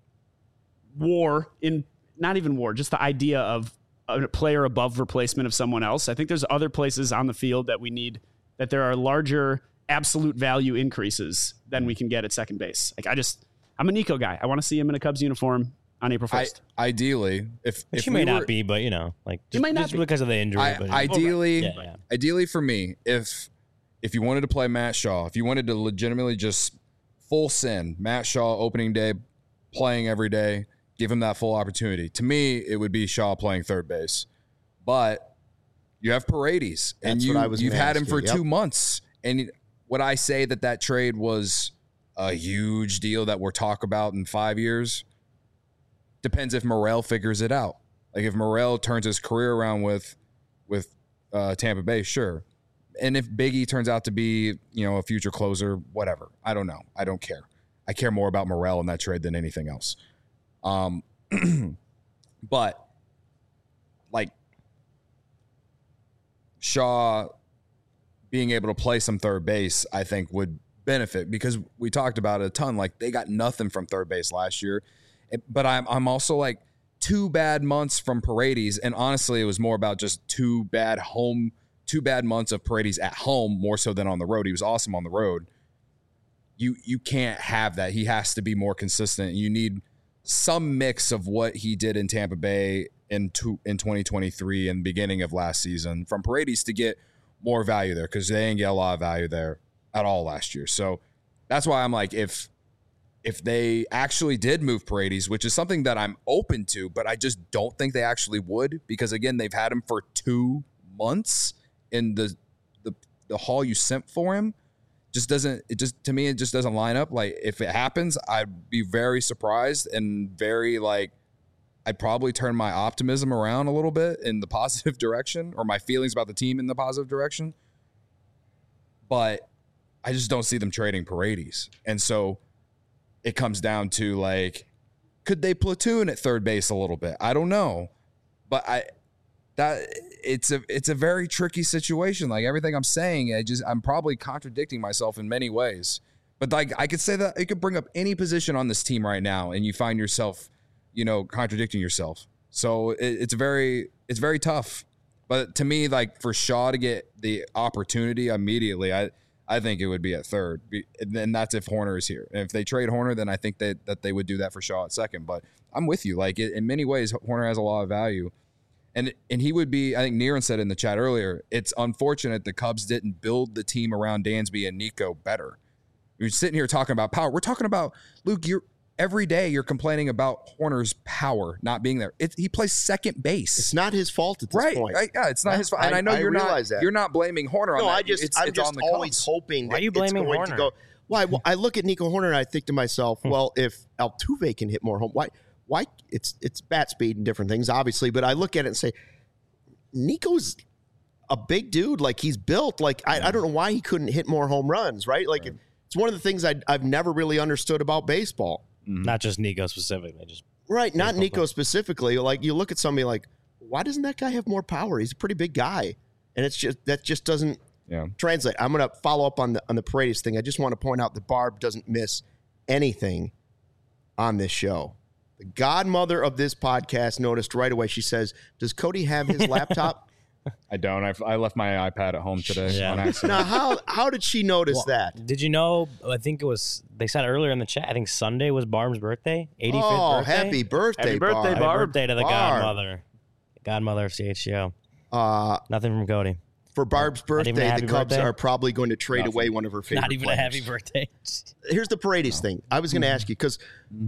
not even war, just the idea of a player above replacement of someone else. I think there's other places on the field that we need, that there are larger absolute value increases than we can get at second base. Like I'm a Nico guy. I want to see him in a Cubs uniform on April 1st. Ideally, if he may not be, but he might not be because of the injury. Ideally for me, if you wanted to play Matt Shaw, if you wanted to legitimately just full send Matt Shaw opening day, playing every day, give him that full opportunity. To me, it would be Shaw playing third base, but you have Paredes, and you've had him for 2 months. And would I say that trade was a huge deal that we're talking about in 5 years? Depends if Morel figures it out. Like if Morel turns his career around with Tampa Bay, sure. And if Biggie turns out to be, a future closer, whatever. I don't know. I don't care. I care more about Morel in that trade than anything else. But like Shaw being able to play some third base, I think would benefit, because we talked about it a ton. Like they got nothing from third base last year. But I'm also like 2 bad months from Paredes, and honestly, it was more about just 2 bad months of Paredes at home more so than on the road. He was awesome on the road. You can't have that. He has to be more consistent. You need some mix of what he did in Tampa Bay in 2023 and beginning of last season from Paredes to get more value there, because they didn't get a lot of value there at all last year. So that's why I'm like, if they actually did move Paredes, which is something that I'm open to, but I just don't think they actually would, because again, they've had him for 2 months in the haul you sent for him. To me, it just doesn't line up. Like if it happens, I'd be very surprised and very I'd probably turn my optimism around a little bit in the positive direction, or my feelings about the team in the positive direction. But I just don't see them trading Paredes. And so it comes down to like, could they platoon at third base a little bit? I don't know. But it's a very tricky situation. Like everything I'm saying, I'm probably contradicting myself in many ways. But like I could say that it could bring up any position on this team right now, and you find yourself, contradicting yourself. So it's very tough. But to me, like for Shaw to get the opportunity immediately, I think it would be at third, and that's if Horner is here. And if they trade Horner, then I think that they would do that for Shaw at second. But I'm with you. Like in many ways, Horner has a lot of value. And he would be, I think Niren said in the chat earlier, it's unfortunate the Cubs didn't build the team around Dansby and Nico better. You're sitting here talking about power. We're talking about, Luke, every day you're complaining about Horner's power not being there. He plays second base. It's not his fault at this point. Right? Yeah, it's not his fault. And I know you're not blaming Horner on that. I'm just always hoping that it's going to go. Well, I look at Nico Horner and I think to myself, well, if Altuve can hit more home, why it's bat speed and different things, obviously, but I look at it and say, Nico's a big dude. Like he's built. Like I don't know why he couldn't hit more home runs, right? Like it's one of the things I've never really understood about baseball. Mm-hmm. Not just Nico specifically, just right. Not Nico specifically. Like you look at somebody like, why doesn't that guy have more power? He's a pretty big guy, and that just doesn't translate. I'm going to follow up on the Paredes thing. I just want to point out that Barb doesn't miss anything on this show. The godmother of this podcast noticed right away. She says, "Does Cody have his laptop?" I don't. I left my iPad at home today on accident. Now, how did she notice that? Did you know? I think it was. They said earlier in the chat. I think Sunday was Barb's birthday. 85th birthday. Happy birthday, Happy Barb! birthday to the godmother, godmother of CHGO. Nothing from Cody. For Barb's birthday, the Cubs are probably going to trade away one of her favorite Not even players. a happy birthday. Here's the Paredes thing. I was going to ask you, because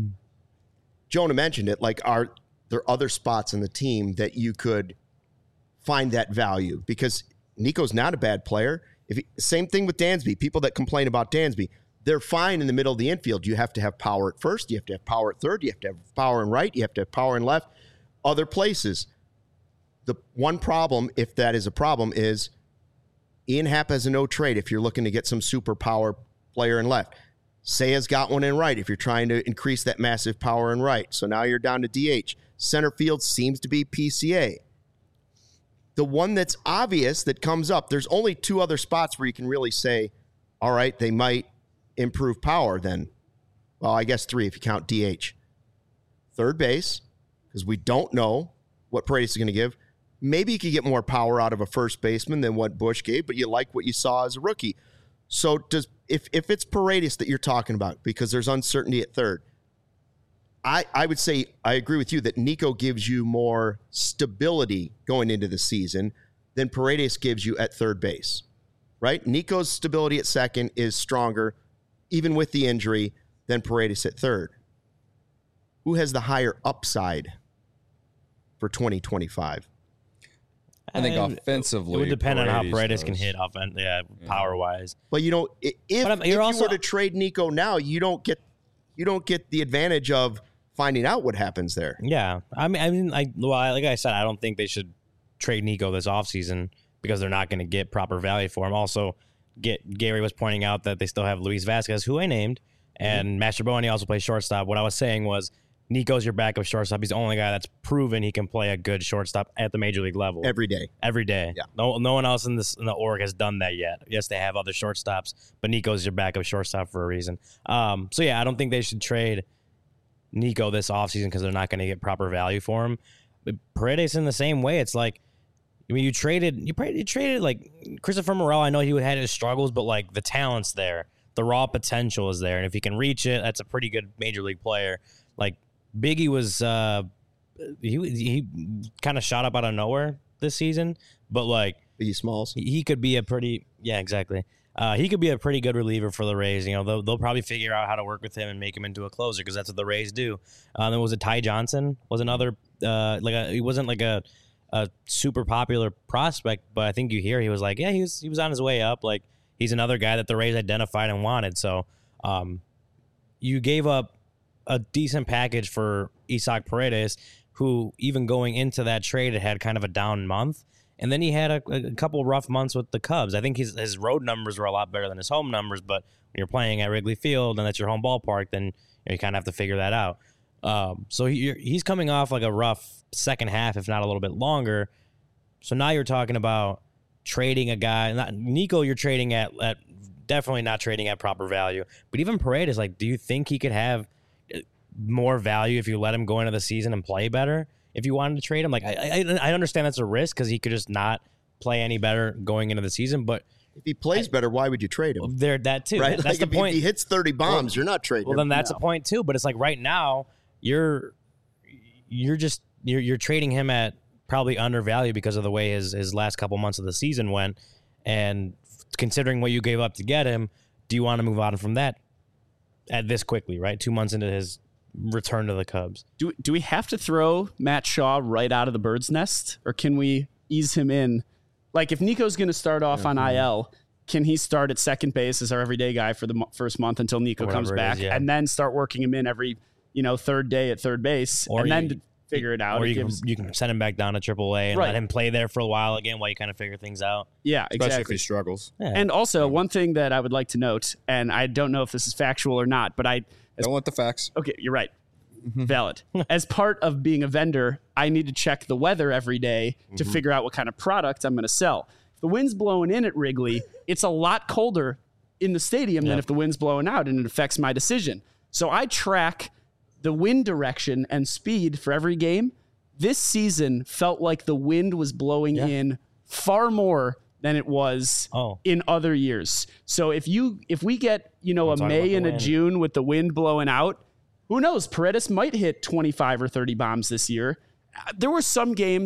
Jonah mentioned it, like, are there other spots in the team that you could find that value? Because Nico's not a bad player. Same thing with Dansby. People that complain about Dansby, they're fine in the middle of the infield. You have to have power at first. You have to have power at third. You have to have power in right. You have to have power in left. Other places. The one problem, if that is a problem, is Ian Happ has a no trade if you're looking to get some superpower player in left. Seiya's got one in right if you're trying to increase that massive power in right. So now you're down to DH. Center field seems to be PCA. The one that's obvious that comes up, there's only two other spots where you can really say, all right, they might improve power then. Well, I guess three if you count DH. Third base, because we don't know what Paredes is going to give. Maybe you could get more power out of a first baseman than what Bush gave, but you like what you saw as a rookie. So if it's Paredes that you're talking about, because there's uncertainty at third, I would say I agree with you that Nico gives you more stability going into the season than Paredes gives you at third base, right? Nico's stability at second is stronger, even with the injury, than Paredes at third. Who has the higher upside for 2025? I think offensively, it would depend on how Paredes does. can hit power wise. But you know, if you were to trade Nico now, you don't get the advantage of finding out what happens there. Yeah, like I said, I don't think they should trade Nico this offseason because they're not going to get proper value for him. Also, Gary was pointing out that they still have Luis Vasquez, who I named, and Mastrobuoni also plays shortstop. What I was saying was Nico's your backup shortstop. He's the only guy that's proven he can play a good shortstop at the major league level every day. Yeah. No one else in the org has done that yet. Yes, they have other shortstops, but Nico's your backup shortstop for a reason. So yeah, I don't think they should trade Nico this offseason because they're not going to get proper value for him. But Paredes in the same way. It's like, I mean, you traded like Christopher Morel. I know he had his struggles, but like the talent's there, the raw potential is there, and if he can reach it, that's a pretty good major league player. Like Biggie was, he kind of shot up out of nowhere this season, but like Biggie Smalls, he could be exactly. He could be a pretty good reliever for the Rays. You know, they'll probably figure out how to work with him and make him into a closer because that's what the Rays do. Then was it Ty Johnson? Was another he wasn't like a super popular prospect, but I think he was like, yeah, he was on his way up. Like he's another guy that the Rays identified and wanted. So you gave up a decent package for Isaac Paredes, who even going into that trade had kind of a down month. And then he had a couple rough months with the Cubs. I think his road numbers were a lot better than his home numbers, but when you're playing at Wrigley Field and that's your home ballpark, then you kind of have to figure that out. So he's coming off like a rough second half, if not a little bit longer. So now you're talking about trading a guy. Nico, you're trading at definitely not trading at proper value. But even Paredes, like, do you think he could have more value if you let him go into the season and play better? If you wanted to trade him, like I understand that's a risk because he could just not play any better going into the season. But if he plays better, why would you trade him? There, that too. Right? That's like the point. If he hits 30 bombs, you're not trading him. Well, then that's a point too. But it's like right now you're trading him at probably undervalued because of the way his last couple months of the season went, and considering what you gave up to get him, do you want to move on from that at this quickly? Right, 2 months into his return to the Cubs. Do we have to throw Matt Shaw right out of the bird's nest, or can we ease him in? Like if Nico's going to start off on IL, can he start at second base as our everyday guy for the first month until Nico comes back, and then start working him in every third day at third base, and then figure it out? Or you can send him back down to AAA and let him play there for a while again while you kind of figure things out. Yeah, especially exactly. if he struggles. Yeah. And also one thing that I would like to note, and I don't know if this is factual or not, but don't want the facts. Okay, you're right. Valid. As part of being a vendor, I need to check the weather every day to figure out what kind of product I'm going to sell. If the wind's blowing in at Wrigley, it's a lot colder in the stadium than if the wind's blowing out, and it affects my decision. So I track the wind direction and speed for every game. This season felt like the wind was blowing in far more than it was in other years. So if we get, a May and a June with the wind blowing out, who knows? Paredes might hit 25 or 30 bombs this year. There were some games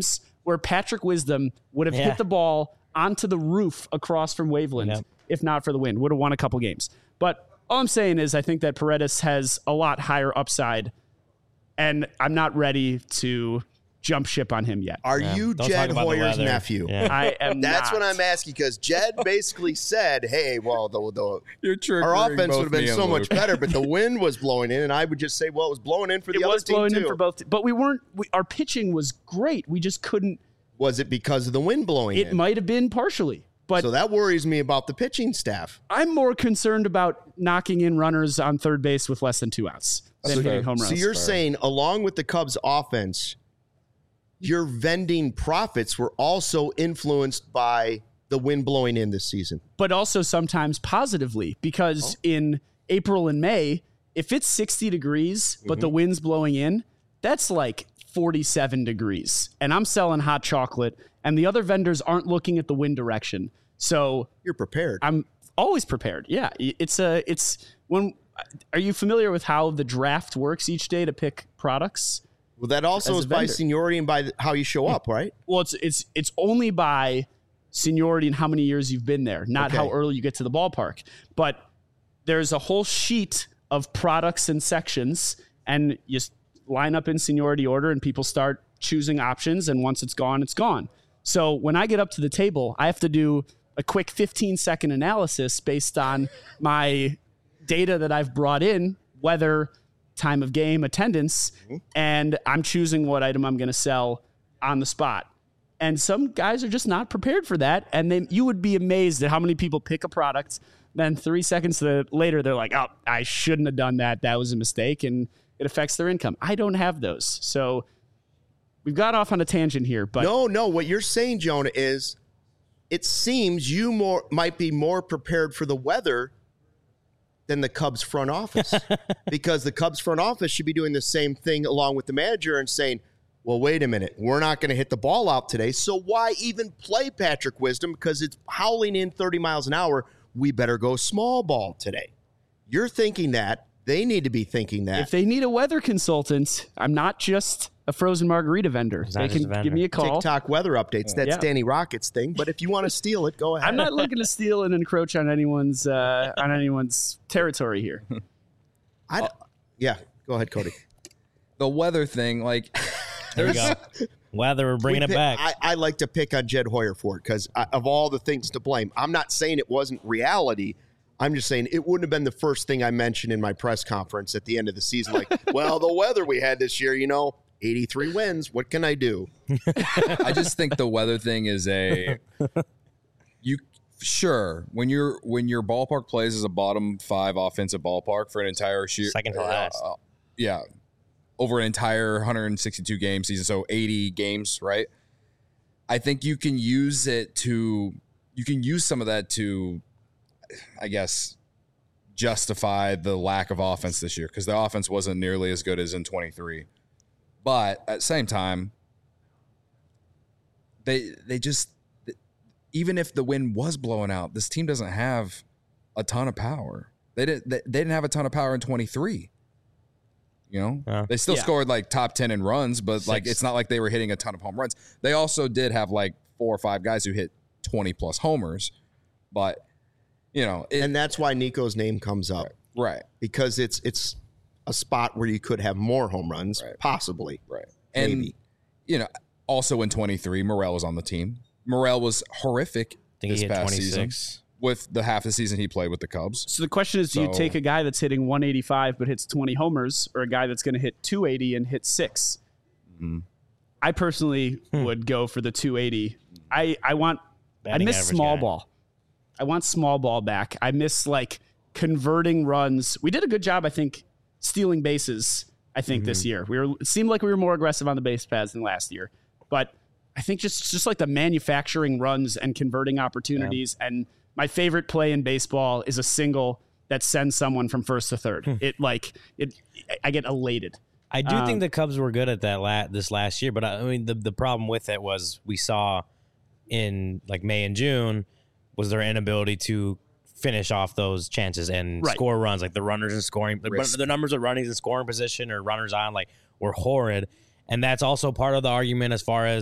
where Patrick Wisdom would have hit the ball onto the roof across from Waveland, if not for the wind. Would have won a couple games. But all I'm saying is I think that Paredes has a lot higher upside, and I'm not ready to jump ship on him yet. Are you Jed Hoyer's nephew? Yeah. I am That's not. what I'm asking, because Jed basically said, hey, well, our offense would have been so much better, but the wind was blowing in, and I would just say, well, it was blowing in for the other team, too. It was blowing in for both. But our pitching was great. We just couldn't. Was it because of the wind blowing in? It might have been partially. But so that worries me about the pitching staff. I'm more concerned about knocking in runners on third base with less than 2 outs than hitting home runs. So you're saying, along with the Cubs offense, your vending profits were also influenced by the wind blowing in this season. But also sometimes positively, because in April and May, if it's 60 degrees, but the wind's blowing in, that's like 47 degrees. And I'm selling hot chocolate, and the other vendors aren't looking at the wind direction. So you're prepared. I'm always prepared. Yeah. Are you familiar with how the draft works each day to pick products? Well, that also is by seniority and by how you show up, right? Well, it's only by seniority and how many years you've been there, not how early you get to the ballpark. But there's a whole sheet of products and sections, and you line up in seniority order, and people start choosing options, and once it's gone, it's gone. So when I get up to the table, I have to do a quick 15-second analysis based on my data that I've brought in, weather, time of game, attendance, and I'm choosing what item I'm going to sell on the spot. And some guys are just not prepared for that, and you would be amazed at how many people pick a product, then 3 seconds later, they're like, oh, I shouldn't have done that. That was a mistake, and it affects their income. I don't have those. So we've got off on a tangent here. But No, what you're saying, Jonah, is it seems you might be more prepared for the weather than the Cubs front office, because the Cubs front office should be doing the same thing along with the manager and saying, well, wait a minute, we're not going to hit the ball out today, so why even play Patrick Wisdom? Because it's howling in 30 miles an hour. We better go small ball today. You're thinking that. They need to be thinking that. If they need a weather consultant, I'm not just a frozen margarita vendor. They can give me a call. TikTok weather updates. That's Danny Rocket's thing. But if you want to steal it, go ahead. I'm not looking to steal and encroach on anyone's territory here. Yeah, go ahead, Cody. The weather thing, like, there you go. Weather, we're bringing it back. I like to pick on Jed Hoyer for it because of all the things to blame. I'm not saying it wasn't reality. I'm just saying it wouldn't have been the first thing I mentioned in my press conference at the end of the season. Like, well, the weather we had this year, 83 wins. What can I do? I just think the weather thing is when your ballpark plays as a bottom 5 offensive ballpark for an entire year, second to last. Over an entire 162 game season, so 80 games, right? I think you can use some of that to, I guess, justify the lack of offense this year, because the offense wasn't nearly as good as in 23. But at the same time, they just, even if the wind was blowing out, this team doesn't have a ton of power. They didn't have a ton of power in 23. They still scored like top 10 in runs, but like it's not like they were hitting a ton of home runs. They also did have like 4 or 5 guys who hit 20 plus homers, but and that's why Nico's name comes up, right? Because it's a spot where you could have more home runs, possibly, right? Maybe. And also in 23, Morel was on the team. Morel was horrific this past season with the half the season he played with the Cubs. So the question is, do you take a guy that's hitting 185 but hits 20 homers, or a guy that's going to hit 280 and hit 6? Mm-hmm. I personally would go for the 280. I miss small ball. I want small ball back. I miss like converting runs. We did a good job, I think, stealing bases. I think this year it seemed like we were more aggressive on the base paths than last year. But I think just like the manufacturing runs and converting opportunities. And my favorite play in baseball is a single that sends someone from first to third. I get elated. I do think the Cubs were good at that this last year, but I mean the problem with it was we saw in like May and June was their inability to finish off those chances and score runs. Like the runners in scoring, the numbers of runners in scoring position or runners on were horrid. And that's also part of the argument as far as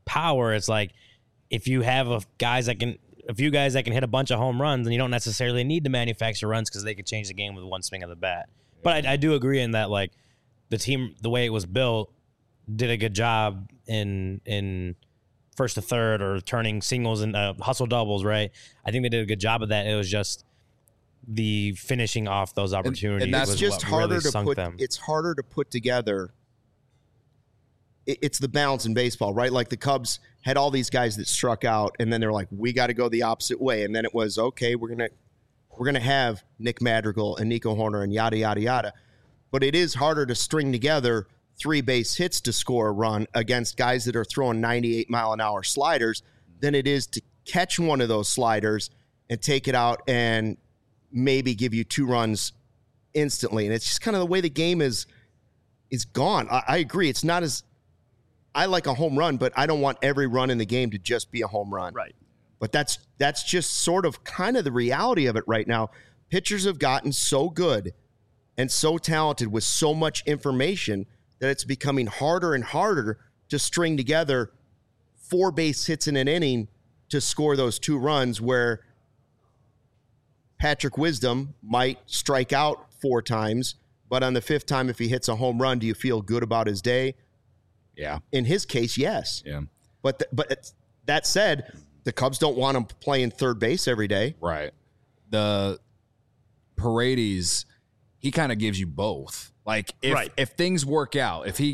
power, it's like if you have a few guys that can hit a bunch of home runs, then you don't necessarily need to manufacture runs because they could change the game with one swing of the bat. But I do agree in that, like, the team, the way it was built, did a good job in first to third or turning singles and hustle doubles, right? I think they did a good job of that. It was just the finishing off those opportunities. And that's was just what harder really to sunk put. them. It's harder to put together. It's the balance in baseball, right? Like the Cubs had all these guys that struck out, and then they're like, we got to go the opposite way. And then it was, okay, we're gonna have Nick Madrigal and Nico Hoerner and yada yada yada. But it is harder to string together 3 base hits to score a run against guys that are throwing 98-mile-an-hour sliders than it is to catch one of those sliders and take it out and maybe give you 2 runs instantly. And it's just kind of the way the game is gone. I agree. It's not as I like a home run, but I don't want every run in the game to just be a home run. Right. But that's just sort of kind of the reality of it right now. Pitchers have gotten so good and so talented with so much information that it's becoming harder and harder to string together 4 base hits in an inning to score those 2 runs, where Patrick Wisdom might strike out 4 times, but on the 5th time, if he hits a home run, do you feel good about his day? Yeah. In his case, yes. Yeah. But that said, the Cubs don't want him playing third base every day. Right. The Paredes, he kind of gives you both. Like if things work out, if he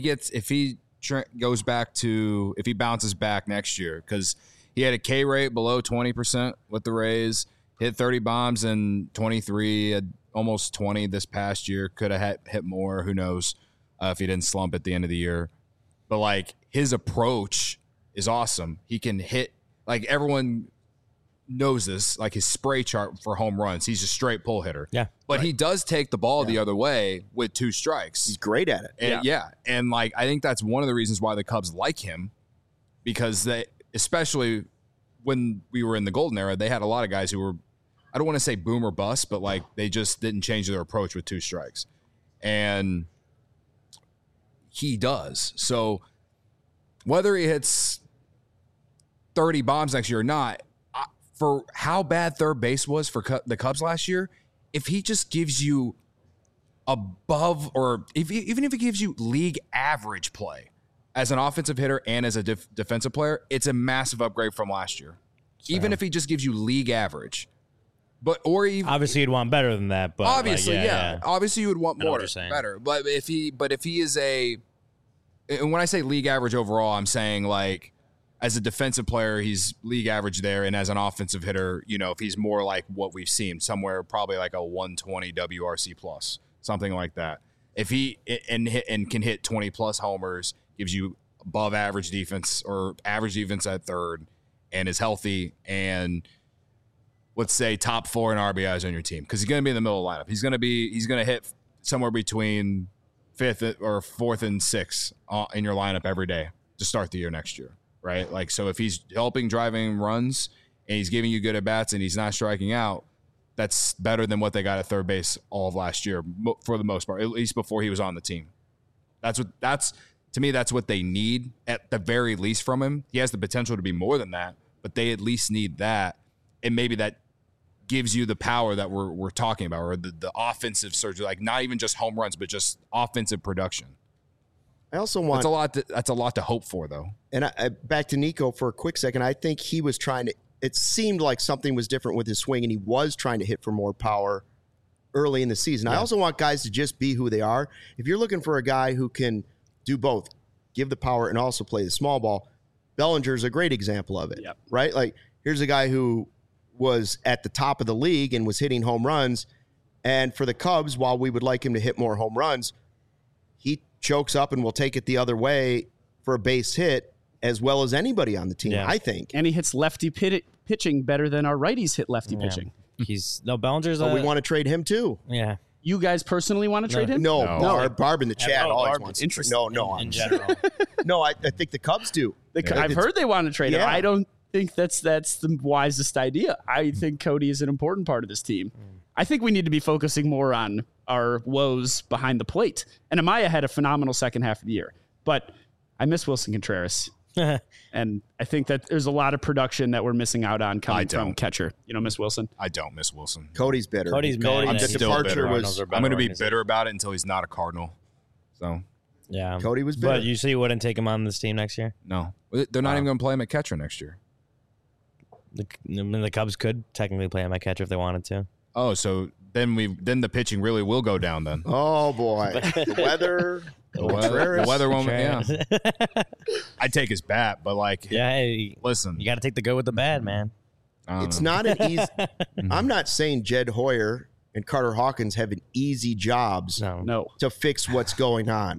bounces back next year, because he had a K rate below 20% with the Rays, hit 30 bombs in 23, almost 20 this past year. Could have hit more. Who knows if he didn't slump at the end of the year. But, like, his approach is awesome. He can hit, like, everyone knows this, like his spray chart for home runs. He's a straight pull hitter. Yeah. But he does take the ball the other way with 2 strikes. He's great at it. And, And, like, I think that's one of the reasons why the Cubs like him, because they, especially when we were in the golden era, they had a lot of guys who were, I don't want to say boom or bust, but, like, they just didn't change their approach with 2 strikes. And he does. So whether he hits 30 bombs next year or not, for how bad third base was for the Cubs last year, if he just gives you above, or even if he gives you league average play as an offensive hitter and as a defensive player, it's a massive upgrade from last year. Even if he just gives you league average. But or even obviously you'd want better than that, but obviously, obviously you would want more better. But if he is and when I say league average overall, I'm saying, like, as a defensive player, he's league average there, and as an offensive hitter, you know, if he's more like what we've seen, somewhere probably like a 120 WRC plus, something like that. If he and can hit 20 plus homers, gives you above average defense or average defense at third, and is healthy, and let's say top 4 in RBIs on your team, because he's going to be in the middle of the lineup. He's going to hit somewhere between 5th or 4th and 6th in your lineup every day to start the year next year, right? Like, so if he's helping driving runs and he's giving you good at bats and he's not striking out, that's better than what they got at third base all of last year for the most part, at least before he was on the team. To me, that's what they need at the very least from him. He has the potential to be more than that, but they at least need that. And maybe that gives you the power that we're talking about, or the offensive surge, like not even just home runs, but just offensive production. I also want that's a lot to hope for, though. And back to Nico for a quick second. I think he was trying to. It seemed like something was different with his swing, and he was trying to hit for more power early in the season. Yeah. I also want guys to just be who they are. If you're looking for a guy who can do both, give the power and also play the small ball, Bellinger's a great example of it. Right? Like, here's a guy who was at the top of the league and was hitting home runs. And for the Cubs, while we would like him to hit more home runs, he chokes up and will take it the other way for a base hit as well as anybody on the team, I think. And he hits lefty pitching better than our righties hit lefty pitching. Bellinger's we want to trade him too. Yeah. You guys personally want to trade him? No. Barb in the chat always wants to trade. No, in general. No, I think the Cubs do. I've heard they want to trade him. I don't think that's the wisest idea. I think Cody is an important part of this team. I think we need to be focusing more on our woes behind the plate. And Amaya had a phenomenal second half of the year, but I miss Wilson Contreras. And I think that there's a lot of production that we're missing out on coming from catcher. You know, Miss Wilson. I don't miss Wilson. Cody's bitter. Cody's mad. I'm The still departure bitter. was. I'm going to be bitter about it until he's not a Cardinal. So, Yeah. Cody was bitter. But you see, you wouldn't take him on this team next year? no. They're not even going to play him at catcher next year. The Cubs could technically play him at catcher if they wanted to. Oh, so then the pitching really will go down then. Oh boy, the weather. The weather won't. Yeah, I'd take his bat, but like, Yeah, hey, listen, you got to take the good with the bad, man. It's not an easy. I'm not saying Jed Hoyer and Carter Hawkins have an easy jobs No. to fix what's going on.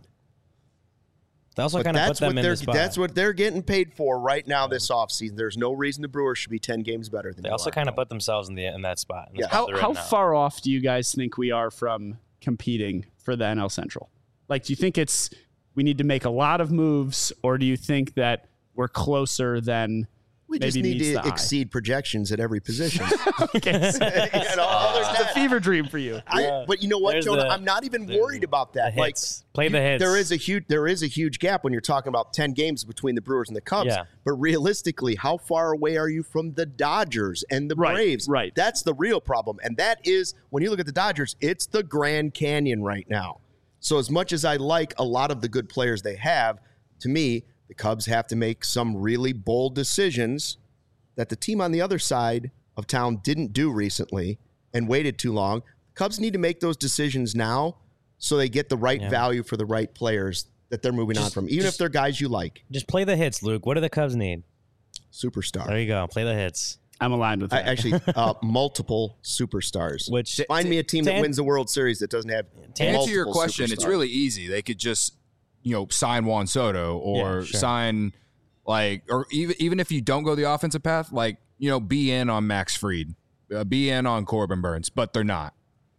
They also But kind of put them in the spot. that's what they're getting paid for right now this offseason. There's no reason the Brewers should be 10 games better than They also kind of put themselves in that spot. Yeah. How far off do you guys think we are from competing for the NL Central? Like, do you think we need to make a lot of moves, or do you think that we're closer than We maybe just need meets to the eye? exceed projections at every position. It's a fever dream for you. But you know what, There's Jonah? the- I'm not even worried about that. The hits. Play the hits. There is a huge gap when you're talking about 10 games between the Brewers and the Cubs. Yeah. But realistically, how far away are you from the Dodgers and the Right, Braves? right. That's the real problem. And that is, when you look at the Dodgers, it's the Grand Canyon right now. So as much as I like a lot of the good players they have, to me, the Cubs have to make some really bold decisions that the team on the other side of town didn't do recently and waited too long. Cubs need to make those decisions now so they get the right value for the right players that they're moving on from, even if they're guys you like. Just play the hits, Luke. What do the Cubs need? Superstar. There you go. Play the hits. I'm aligned with that. Actually, multiple superstars. Which Find me a team that wins the World Series that doesn't have To answer your multiple question, it's superstars. really easy. They could just, sign Juan Soto or Yeah, sure. sign or even if you don't go the offensive path, be in on Max Fried, be in on Corbin Burns, but they're not.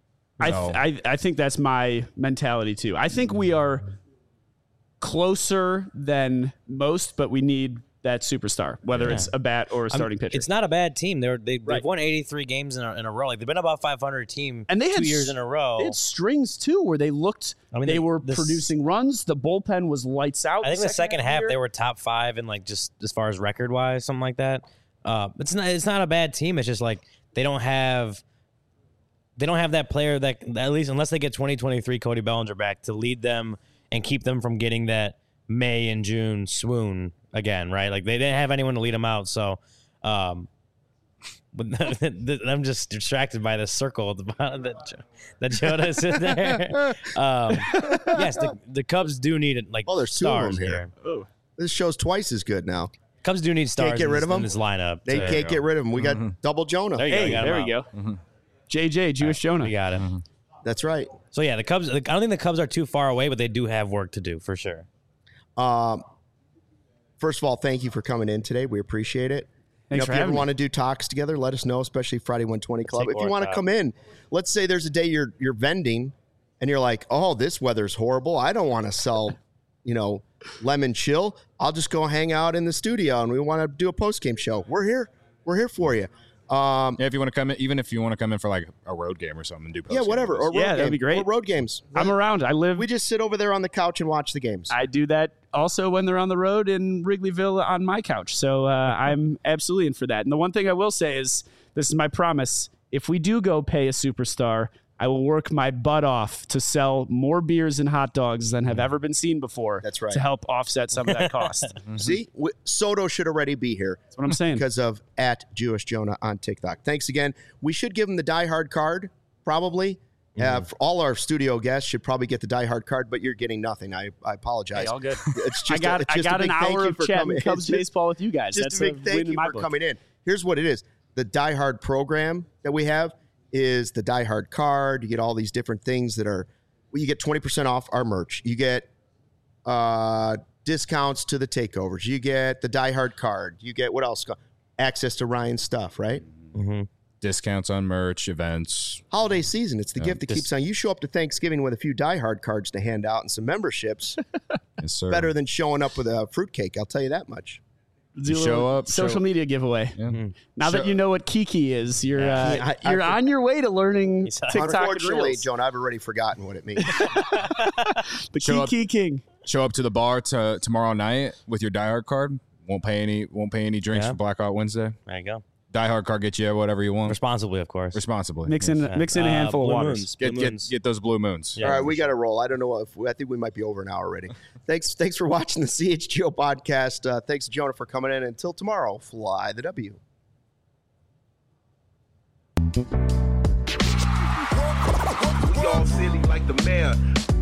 I think that's my mentality too. I think we are closer than most, but we need that superstar, whether it's a bat or a starting pitcher. It's not a bad team. They've won 83 games in a row. Like, they've been about 500 team and they had 2 years in a row. They had strings too, where they looked. They were producing runs. The bullpen was lights out. I think the second half they were top 5 in just as far as record wise, something like that. It's not a bad team. It's just like they don't have that player that, at least unless they get 2023 Cody Bellinger back, to lead them and keep them from getting that May and June swoon again, right? Like, they didn't have anyone to lead them out. So, but I'm just distracted by the circle at the bottom that Jonah's in there. Yes, the Cubs do need it. Like, there's two of stars them here. Oh. This show's twice as good now. Cubs do need stars. Can't get rid of them? in this lineup. They can't get rid of him. We got double Jonah. There you go. Hey, there we go. Mm-hmm. JJ, Jewish Jonah. We got it. That's right. So yeah, the Cubs. I don't think the Cubs are too far away, but they do have work to do for sure. First of all, thank you for coming in today. We appreciate it. Thanks If for you ever having me. want to do talks together, let us know, especially Friday 120 Club. Take If you want to work come in, let's say there's a day you're vending and you're like, oh, this weather's horrible. I don't want to sell, lemon chill. I'll just go hang out in the studio and we want to do a post-game show. We're here. We're here for you. If you want to come in, even if you want to come in for like a road game or something, and do Yeah, post-game whatever. with Or us. road that'd be game. great. Or road games. I'm around. We just sit over there on the couch and watch the games. I do that also when they're on the road in Wrigleyville on my couch. So I'm absolutely in for that. And the one thing I will say is, this is my promise. If we do go pay a superstar, I will work my butt off to sell more beers and hot dogs than have ever been seen before. That's right. To help offset some of that cost. That's See, Soto should already be here. what I'm saying. Because of @JewishJonah on TikTok. Thanks again. We should give him the Die Hard card, probably. For all our studio guests should probably get the Die Hard card, but you're getting nothing. I apologize. Hey, all good. It's I just got a an big thank hour you of for chatting coming. Cubs It's just- baseball with you guys. Just That's a big win thank in you my for book. coming in. Here's what it is. The Die Hard program that we have is the Die Hard card. You get all these different things that are, you get 20% off our merch. You get discounts to the takeovers. You get the Die Hard card. You get what else? Access to Ryan's stuff, right? Discounts on merch, events. Holiday season. It's the gift that keeps on. You show up to Thanksgiving with a few Die Hard cards to hand out and some memberships. Yes, sir. Better than showing up with a fruitcake. I'll tell you that much. Do a show little up, social show- mean giveaway. Yeah. Now that you know what Kiki is, you're I on your way to learning TikTok and Unfortunately, Reels. Joan, I've already forgotten what it means. The Show up- Kiki King. Show up to the bar tomorrow night with your Die Hard card. Won't pay any drinks for Blackout Wednesday. There you go. Die Hard card gets you whatever you want. Responsibly, of course. Responsibly. Mix in a handful of waters. Get those blue moons. Yeah, all right, we got to roll. I don't know I think we might be over an hour already. Thanks for watching the CHGO podcast. Thanks, Jonah, for coming in. Until tomorrow, fly the W. We all silly like the mayor.